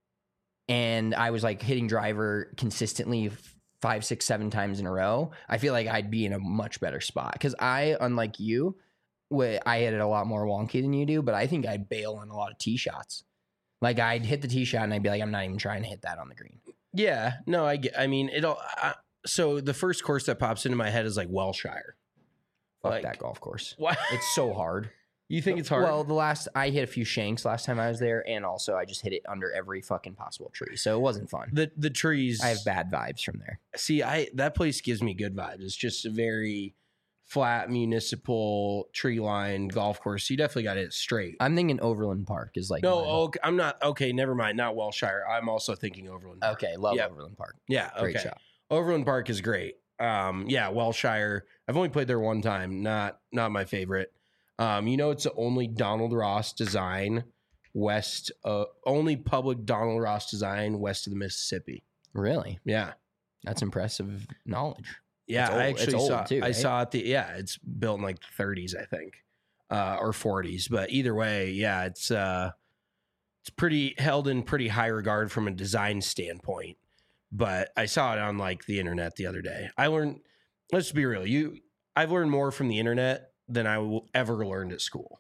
and I was like hitting driver consistently five, six, seven times in a row, I feel like I'd be in a much better spot. Because I, unlike you, wh- I hit it a lot more wonky than you do, but I think I'd bail on a lot of tee shots. Like I'd hit the tee shot and I'd be like, I'm not even trying to hit that on the green. Yeah. No, I get, I mean, it'll, I, so the first course that pops into my head is like Welshire. Fuck Like- that golf course. Why? It's so hard. You think it's hard? Well, the last I hit a few shanks last time I was there, and also I just hit it under every fucking possible tree, so it wasn't fun. the the trees. I have bad vibes from there. See, I that place gives me good vibes. It's just a very flat municipal tree line golf course. You definitely got it straight. I'm thinking Overland Park is like no, mine. okay, I'm not. Okay, never mind. Not Welshire. I'm also thinking Overland Park. Okay, love Yeah. Overland Park. Yeah. Great okay. shot. Overland Park is great. Um, yeah, Welshire. I've only played there one time. Not not my favorite. Um, you know, it's the only Donald Ross design west, uh, only public Donald Ross design west of the Mississippi. Really? Yeah. That's impressive knowledge. Yeah, It's old- I it's actually old saw. too, I right? saw it. The yeah, it's built in like the thirties, I think, uh, or forties. But either way, yeah, it's uh, it's pretty held in pretty high regard from a design standpoint. But I saw it on like the internet the other day. I learned. Let's be real. You, I've learned more from the internet than I will ever learned at school.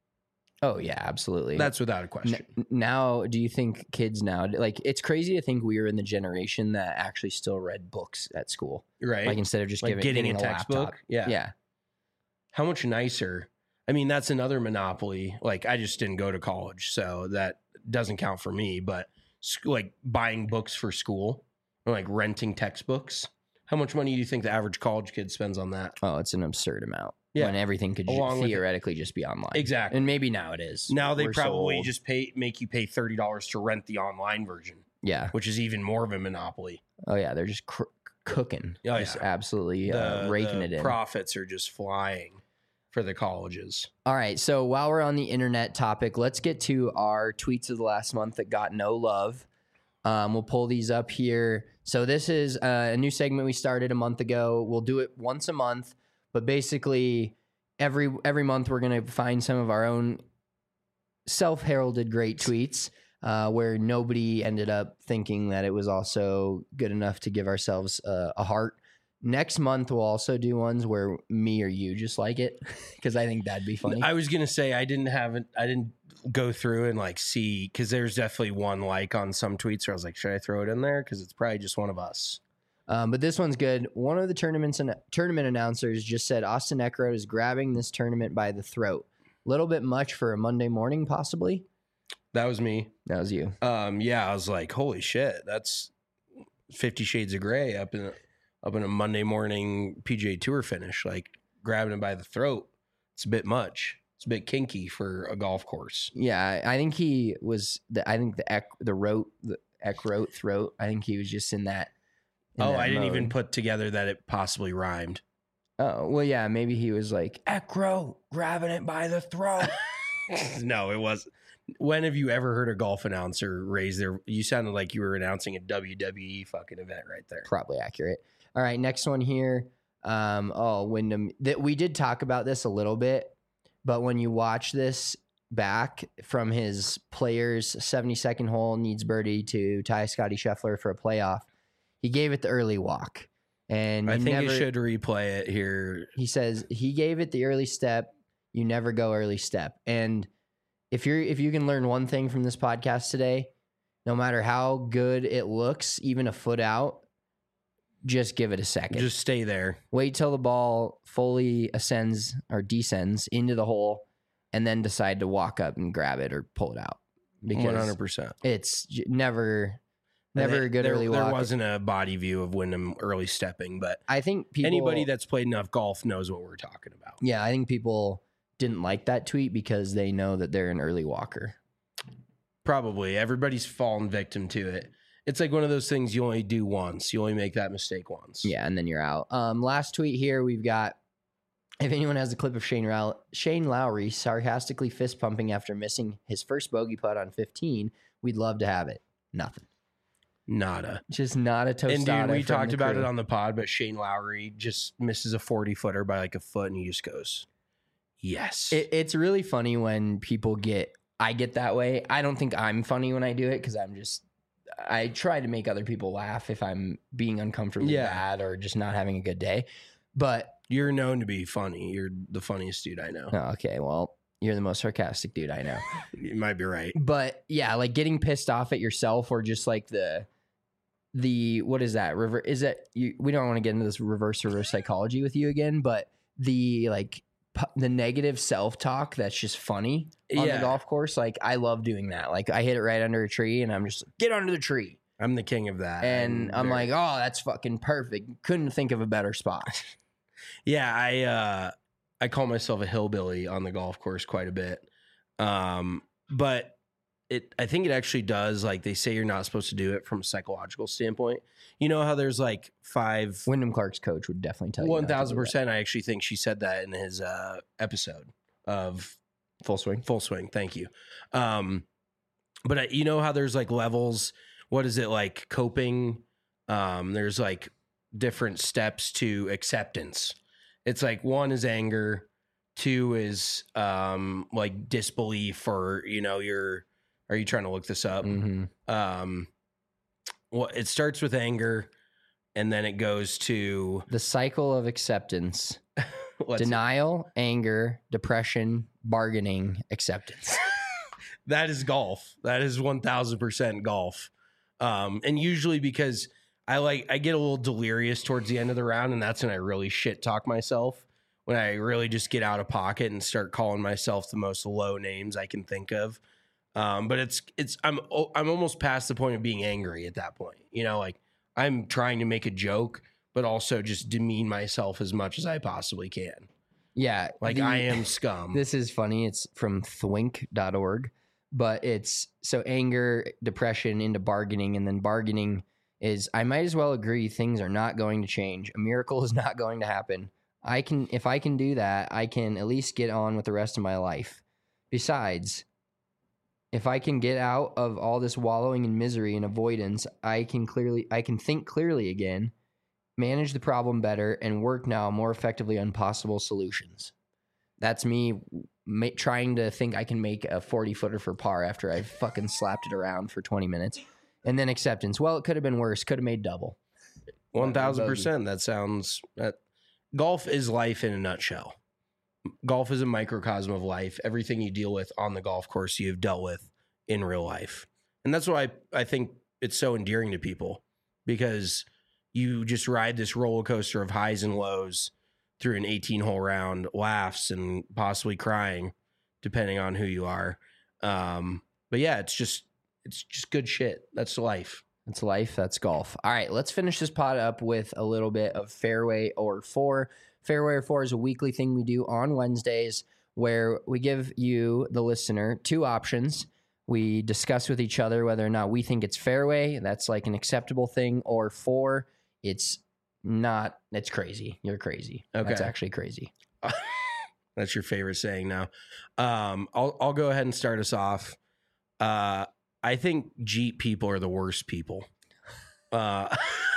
Oh yeah, absolutely. That's without a question. N- now, do you think kids now, like, it's crazy to think we were in the generation that actually still read books at school, Right? like instead of just Like giving, getting getting a a textbook? laptop. Yeah. yeah. How much nicer? I mean, that's another monopoly. Like, I just didn't go to college, so that doesn't count for me. But sc- like buying books for school or like renting textbooks. How much money do you think the average college kid spends on that? Oh, it's an absurd amount. Yeah. When everything could ju- Along with it. theoretically just be online. Exactly. And maybe now it is. Now they We're so probably old. just pay make you pay thirty dollars to rent the online version, yeah. which is even more of a monopoly. Oh yeah, they're just cr- cooking. Oh, just yeah. absolutely uh, The- raking the it in. Profits are just flying for the colleges. All right, so while we're on the internet topic, let's get to our tweets of the last month that got no love. Um, we'll pull these up here. So this is uh, a new segment we started a month ago. We'll do it once a month, but basically every every month we're going to find some of our own self-heralded great tweets uh, where nobody ended up thinking that it was also good enough to give ourselves uh, a heart. Next month we'll also do ones where me or you just like it because I think that'd be funny. I was gonna say I didn't have it. I didn't go through and like see because there's definitely one like on some tweets where I was like, should I throw it in there? Because it's probably just one of us. Um, but this one's good. One of the tournaments and tournament announcers just said Austin Eckroat is grabbing this tournament by the throat. A little bit much for a Monday morning, possibly. That was me. That was you. Um, yeah, I was like, holy shit, that's Fifty Shades of Grey up in up in a Monday morning P G A Tour finish, like grabbing it by the throat. It's a bit much. It's a bit kinky for a golf course. Yeah, I I think he was. The, I think the Eck, the rote, the Eckroat throat. I think he was just in that. in Oh, that I didn't mode. even put together that it possibly rhymed. Oh well, yeah. Maybe he was like Eckroat grabbing it by the throat. No, it wasn't. When have you ever heard a golf announcer raise their? You sounded like you were announcing a W W E fucking event right there. Probably accurate. All right, next one here. Um, oh, Wyndham. That we did talk about this a little bit, but when you watch this back from his players' seventy-second hole needs birdie to tie Scotty Scheffler for a playoff, he gave it the early walk. And I you think never, you should replay it here. He says he gave it the early step. You never go early step. And if you're if you can learn one thing from this podcast today, no matter how good it looks, even a foot out, just give it a second. Just stay there. Wait till the ball fully ascends or descends into the hole, and then decide to walk up and grab it or pull it out. Because one hundred percent. it's j- never, never a good there, early there walk. There wasn't a body view of Wyndham early stepping, but I think people, anybody that's played enough golf knows what we're talking about. yeah, I think people didn't like that tweet because they know that they're an early walker. Probably. Everybody's fallen victim to it. It's like one of those things you only do once. You only make that mistake once. Yeah, and then you're out. Um, last tweet here, we've got, if anyone has a clip of Shane, Row- Shane Lowry sarcastically fist pumping after missing his first bogey putt on fifteen, we'd love to have it. Nothing. Nada. Just not a tostada. And dude, we from talked the about crew. it on the pod, but Shane Lowry just misses a forty footer by like a foot and he just goes, yes. It, it's really funny when people get, I get that way. I don't think I'm funny when I do it because I'm just, I try to make other people laugh if I'm being uncomfortably Yeah. bad or just not having a good day. But, You're known to be funny. You're the funniest dude I know. oh, okay, well, you're the most sarcastic dude I know. You might be right. But yeah, like getting pissed off at yourself or just like the, the, what is that? River, is it, you, we don't want to get into this reverse reverse psychology with you again, but the like, pu- the negative self-talk that's just funny on Yeah. the golf course. Like I love doing that. Like I hit it right under a tree and I'm just like, get under the tree. I'm the king of that. And I'm very- like, oh, that's fucking perfect. Couldn't think of a better spot. yeah, I uh, I call myself a hillbilly on the golf course quite a bit. Um, but it, I think it actually does. Like they say, you're not supposed to do it from a psychological standpoint. You know how there's like five, Wyndham Clark's coach would definitely tell you. not one to do thousand that. percent. I actually think she said that in his uh episode of Full swing. Full Swing. Thank you. Um, but I, you know how there's like levels. What is it like coping? Um, there's like different steps to acceptance. It's like one is anger, two is um like disbelief, or you know, you're are you trying to look this up? Mm-hmm. Um, well, it starts with anger, and then it goes to The cycle of acceptance. let's see. Denial, anger, depression, bargaining, acceptance. That is golf. That is one thousand percent golf. Um, and usually because I like, I get a little delirious towards the end of the round, and that's when I really shit talk myself, when I really just get out of pocket and start calling myself the most low names I can think of. Um, but it's, it's, I'm, I'm almost past the point of being angry at that point. You know, like I'm trying to make a joke, but also just demean myself as much as I possibly can. Yeah. Like the- I am scum. This is funny. It's from thwink dot org, but it's so anger, depression into bargaining. And then bargaining is, I might as well agree things are not going to change. A miracle is not going to happen. I can, if I can do that, I can at least get on with the rest of my life. Besides, if I can get out of all this wallowing in misery and avoidance, I can clearly, I can think clearly again, manage the problem better, and work now more effectively on possible solutions. That's me ma- trying to think I can make a forty footer for par after I fucking slapped it around for twenty minutes. And then acceptance. Well, it could have been worse. Could have made double. One thousand percent. That sounds. That golf is life in a nutshell. Golf is a microcosm of life. Everything you deal with on the golf course, you've dealt with in real life, and that's why I, I think it's so endearing to people, because you just ride this roller coaster of highs and lows through an eighteen hole round, laughs and possibly crying, depending on who you are. Um, but yeah, it's just it's just good shit. That's life. That's life. That's golf. All right, let's finish this pod up with a little bit of Fairway or Four. Fairway or Four is a weekly thing we do on Wednesdays where we give you, the listener, two options. We discuss with each other whether or not we think it's fairway, that's like an acceptable thing, or four, it's not, it's crazy. You're crazy. Okay. That's actually crazy. That's your favorite saying now. Um, I'll I'll go ahead and start us off. Uh, I think Jeep people are the worst people. Uh,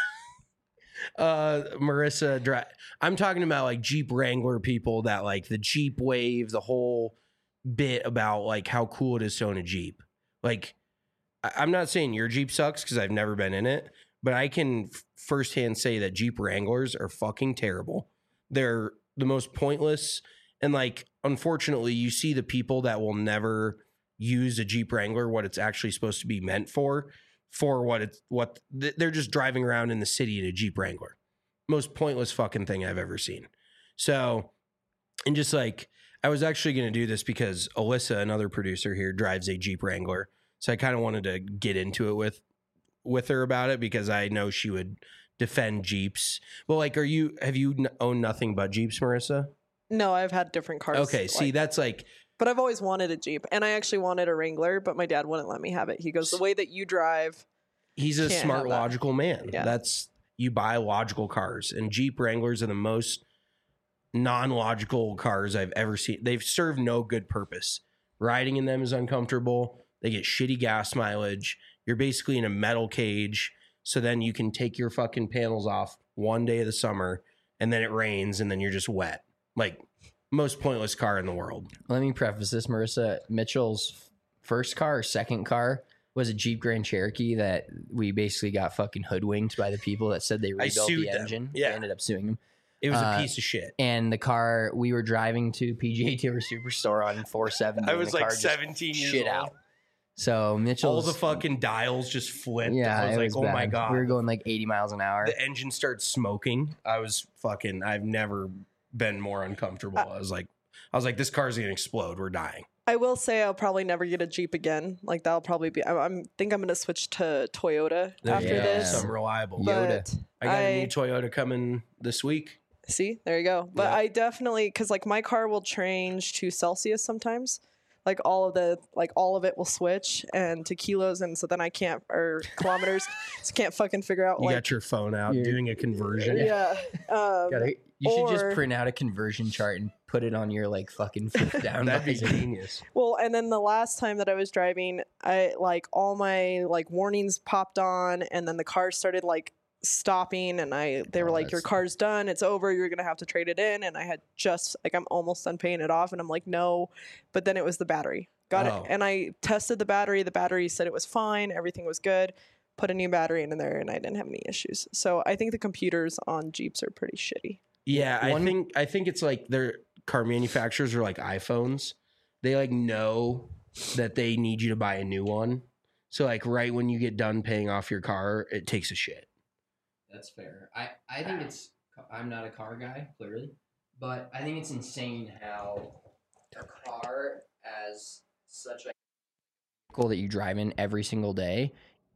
uh, Marissa, dri- I'm talking about like Jeep Wrangler people that like the Jeep wave, the whole bit about like how cool it is to own a Jeep. Like, I- I'm not saying your Jeep sucks because I've never been in it, but I can f- firsthand say that Jeep Wranglers are fucking terrible. They're the most pointless. And like, unfortunately, you see the people that will never use a Jeep Wrangler, what it's actually supposed to be meant for, for what it's, what they're just driving around in the city in a Jeep Wrangler. Most pointless fucking thing I've ever seen. So, and just like, I was actually going to do this because Alyssa, another producer here, drives a Jeep Wrangler. So I kind of wanted to get into it with, with her about it because I know she would defend Jeeps. Well, like, are you, have you n- owned nothing but Jeeps, Marissa? No, I've had different cars. Okay. See, like- that's like, But I've always wanted a Jeep, and I actually wanted a Wrangler, but my dad wouldn't let me have it. He goes, the way that you drive, he's a Can't smart, have that. logical man. Yeah. That's, you buy logical cars, and Jeep Wranglers are the most non-logical cars I've ever seen. They've served no good purpose. Riding in them is uncomfortable. They get shitty gas mileage. You're basically in a metal cage. So then you can take your fucking panels off one day of the summer, and then it rains, and then you're just wet. Like, most pointless car in the world. Let me preface this, Marissa. Mitchell's first car or second car was a Jeep Grand Cherokee that we basically got fucking hoodwinked by the people that said they I rebuilt sued the them. engine. Yeah. We ended up suing them. It was Uh, a piece of shit. And the car, we were driving to P G A Tour Superstore on four seventy. I and was the like car just seventeen years shit old. out. So Mitchell's. All the fucking dials just flipped. Yeah, I was it like, was oh my bad. God. We were going like eighty miles an hour. The engine started smoking. I was fucking, I've never been more uncomfortable. I was like, I was like, this car's gonna explode. We're dying. I will say I'll probably never get a Jeep again. Like that'll probably be. I I'm, think I'm going to switch to Toyota There after you go. this. Something reliable. Yoda. But I got a I- new Toyota coming this week. See, there you go. But Yeah. I definitely, because like my car will change to Celsius sometimes. Like all of the, like all of it will switch and to kilos, and so then I can't or kilometers, so can't fucking figure out You like got your phone out You're- doing a conversion. yeah. Um, Gotta- you should or- just print out a conversion chart and put it on your like fucking flip down. That'd be visor. genius. Well, and then the last time that I was driving, I like all my like warnings popped on, and then the car started like stopping, and I they were Oh, like, "Your that's- car's done. It's over. You're gonna have to trade it in." And I had just like I'm almost done paying it off, and I'm like, "No," but then it was the battery. Got Oh. it, and I tested the battery. The battery said it was fine. Everything was good. Put a new battery in there, and I didn't have any issues. So I think the computers on Jeeps are pretty shitty. Yeah, I One- think I think it's like their car manufacturers are like iPhones. They like know that they need you to buy a new one. So like right when you get done paying off your car, it takes a shit. That's fair. I, I think it's, I'm not a car guy, clearly, but I think it's insane how a car as such a vehicle that you drive in every single day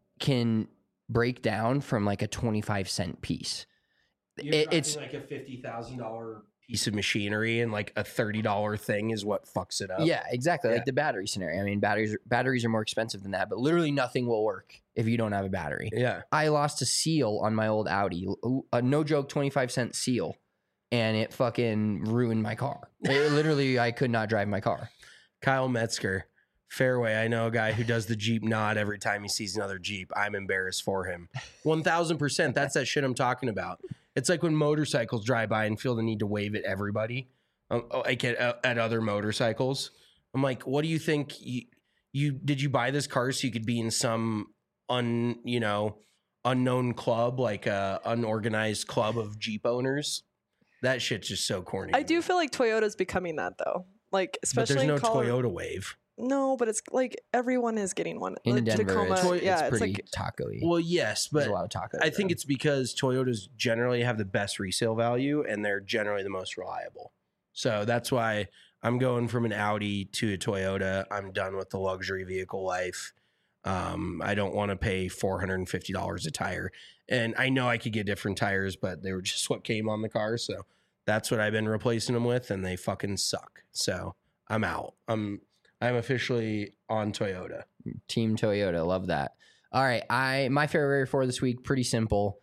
can break down from like a twenty-five cent piece. It, it's like a fifty thousand dollar piece of machinery, and like a thirty dollar thing is what fucks it up. yeah, exactly. Yeah. Like the battery scenario. I mean, batteries, batteries are more expensive than that, but literally nothing will work if you don't have a battery. yeah. I lost a seal on my old Audi, a no joke twenty-five cent seal, and it fucking ruined my car. It, literally, I could not drive my car. Kyle Metzger, Fairway. I know a guy who does the Jeep nod every time he sees another Jeep. I'm embarrassed for him. one thousand percent. That's that shit I'm talking about. It's like when motorcycles drive by and feel the need to wave at everybody, um, like at, at other motorcycles. I'm like, what do you think? You, you did you buy this car so you could be in some un you know unknown club, like a unorganized club of Jeep owners? That shit's just so corny. I to do me. feel like Toyota's becoming that though. Like but especially there's no in Colorado. Toyota wave. No, but it's like everyone is getting one. In Like, Denver, Tacoma, it's, Toy- it's yeah, it's pretty like taco-y. Well, yes, There's but a lot of tacos. I think there. it's because Toyotas generally have the best resale value and they're generally the most reliable. So that's why I'm going from an Audi to a Toyota. I'm done with the luxury vehicle life. Um, I don't want to pay four hundred fifty dollars a tire. And I know I could get different tires, but they were just what came on the car. So that's what I've been replacing them with, and they fucking suck. So I'm out. I'm I'm officially on Toyota. Team Toyota. Love that. All right. I my favorite for this week, pretty simple.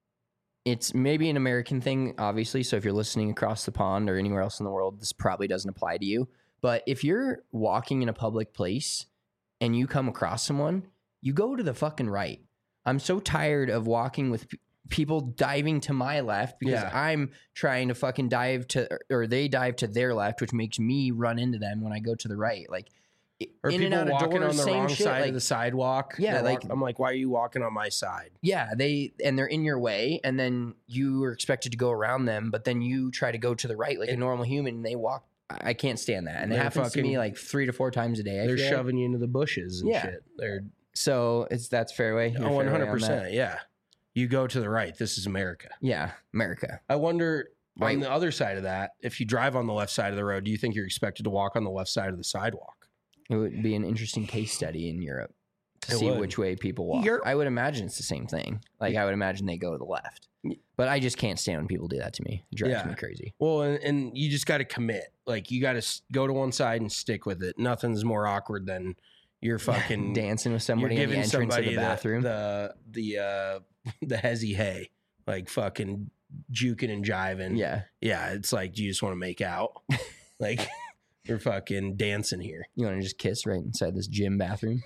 It's maybe an American thing, obviously. So if you're listening across the pond or anywhere else in the world, this probably doesn't apply to you. But if you're walking in a public place and you come across someone, you go to the fucking right. I'm so tired of walking with p- people diving to my left because Yeah. I'm trying to fucking dive to, or they dive to their left, which makes me run into them when I go to the right. Like, Or in and people out of walking doors, on the same wrong shit, side like- of the sidewalk. Yeah, They're like- walk- I'm like, why are you walking on my side? Yeah, they and they're in your way, and then you are expected to go around them, but then you try to go to the right like a normal human, and they walk. I I can't stand that, and it They're happens to me fucking- like three to four times a day. I They're feel like. shoving you into the bushes and Yeah. shit. They're So it's that's fairway. You're oh, one fairway hundred on that? percent. Yeah, you go to the right. This is America. Yeah, America. I wonder Right. on the other side of that, if you drive on the left side of the road, do you think you're expected to walk on the left side of the sidewalk? It would be an interesting case study in Europe to It see would. which way people walk. Europe- I would imagine it's the same thing. Like I would imagine they go to the left, but I just can't stand when people do that to me. It drives Yeah. me crazy. Well, and, and you just got to commit. Like you got to go to one side and stick with it. Nothing's more awkward than you're fucking Dancing with You're somebody in the giving entrance of somebody the bathroom. the the the, uh, the hezzy hay, like fucking juking and jiving. yeah, yeah. It's like, do you just want to make out? Like you're fucking dancing here. you want to just kiss right inside this gym bathroom.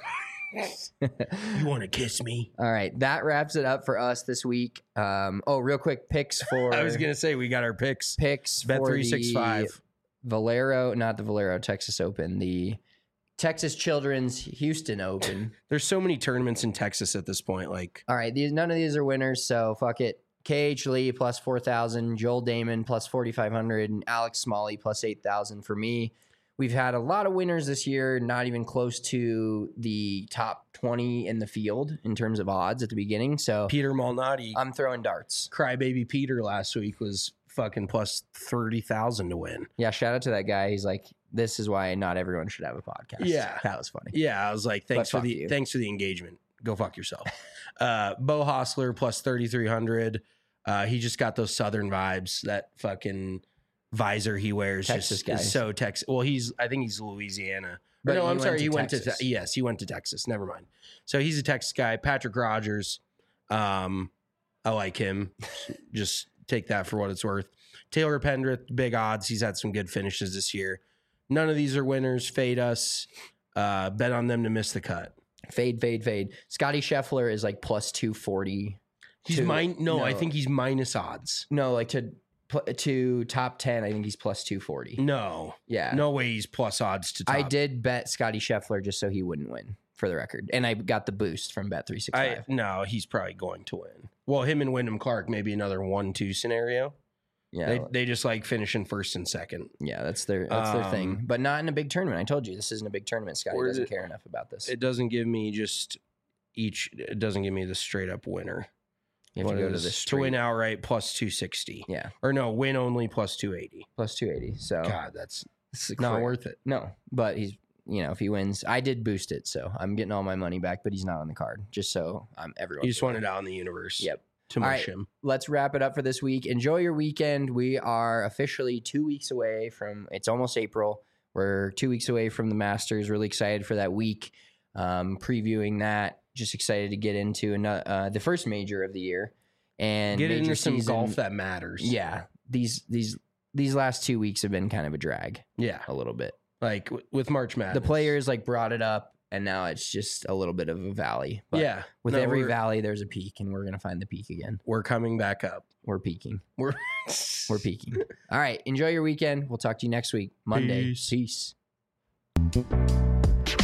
You want to kiss me? All right, that wraps it up for us this week. Um, oh, real quick, picks for I was gonna say we got our picks. picks Bet for three six five. the Valero, not the Valero Texas Open, the Texas Children's Houston Open. There's so many tournaments in Texas at this point. Like All right, these none of these are winners, so fuck it. K H Lee plus four thousand, Joel Damon plus forty-five hundred, and Alex Smalley plus eight thousand for me. We've had a lot of winners this year, not even close to the top twenty in the field in terms of odds at the beginning. So Peter Malnati, I'm throwing darts. Crybaby Peter last week was fucking plus thirty thousand to win. Yeah, shout out to that guy. He's like, this is why not everyone should have a podcast. Yeah. That was funny. Yeah, I was like, thanks But for the fuck you. thanks for the engagement. Go fuck yourself. uh, Bo Hostler plus thirty three hundred. Uh, he just got those Southern vibes. That fucking visor he wears Texas just guy. is so Texas. Well, he's I think he's Louisiana. But But no, he I'm went sorry. to he went Texas. to te- yes, he went to Texas. Never mind. So he's a Texas guy. Patrick Rogers. Um, I like him. Just take that for what it's worth. Taylor Pendrith, big odds. He's had some good finishes this year. None of these are winners. Fade us. Uh, bet on them to miss the cut. Fade, fade, fade. Scotty Scheffler is like plus two forty. He's to- mine. No, I no. think he's minus odds. No, like to pl- to top ten, I think he's plus two forty. No, Yeah. no way he's plus odds to top. I did bet Scotty Scheffler just so he wouldn't win, for the record. And I got the boost from Bet three I sixty-five. no, he's probably going to win. Well, him and Wyndham Clark maybe another one-two scenario. Yeah. They they just like finishing first and second. yeah, that's their that's their thing. Um, But not in a big tournament. I told you this isn't a big tournament. Scotty Or doesn't it- care enough about this. It doesn't give me just each. It doesn't give me the straight up winner. you have to What go to is- this to win outright plus two sixty. Yeah. Or no, win only plus two eighty. Plus two eighty. So God, that's it's not cra- worth it. No, but he's you know if he wins, I did boost it, so I'm getting all my money back. But he's not on the card, just so I'm everyone. You just want it out in the universe. Yep. To All mush right. him. Let's wrap it up for this week. Enjoy your weekend. We are officially two weeks away from. It's almost April. We're two weeks away from the Masters. Really excited for that week. Um, previewing that. Just excited to get into another, uh, the first major of the year and Get major into some season. golf that matters. Yeah, these these these last two weeks have been kind of a drag Yeah. a little bit. Like w- with March Madness. The players like brought it up, and now it's just a little bit of a valley. But yeah. with No, every we're- valley, there's a peak, and we're gonna find the peak again. We're coming back up. We're peaking. We're We're peaking. All right. Enjoy your weekend. We'll talk to you next week, Monday. Peace. Peace.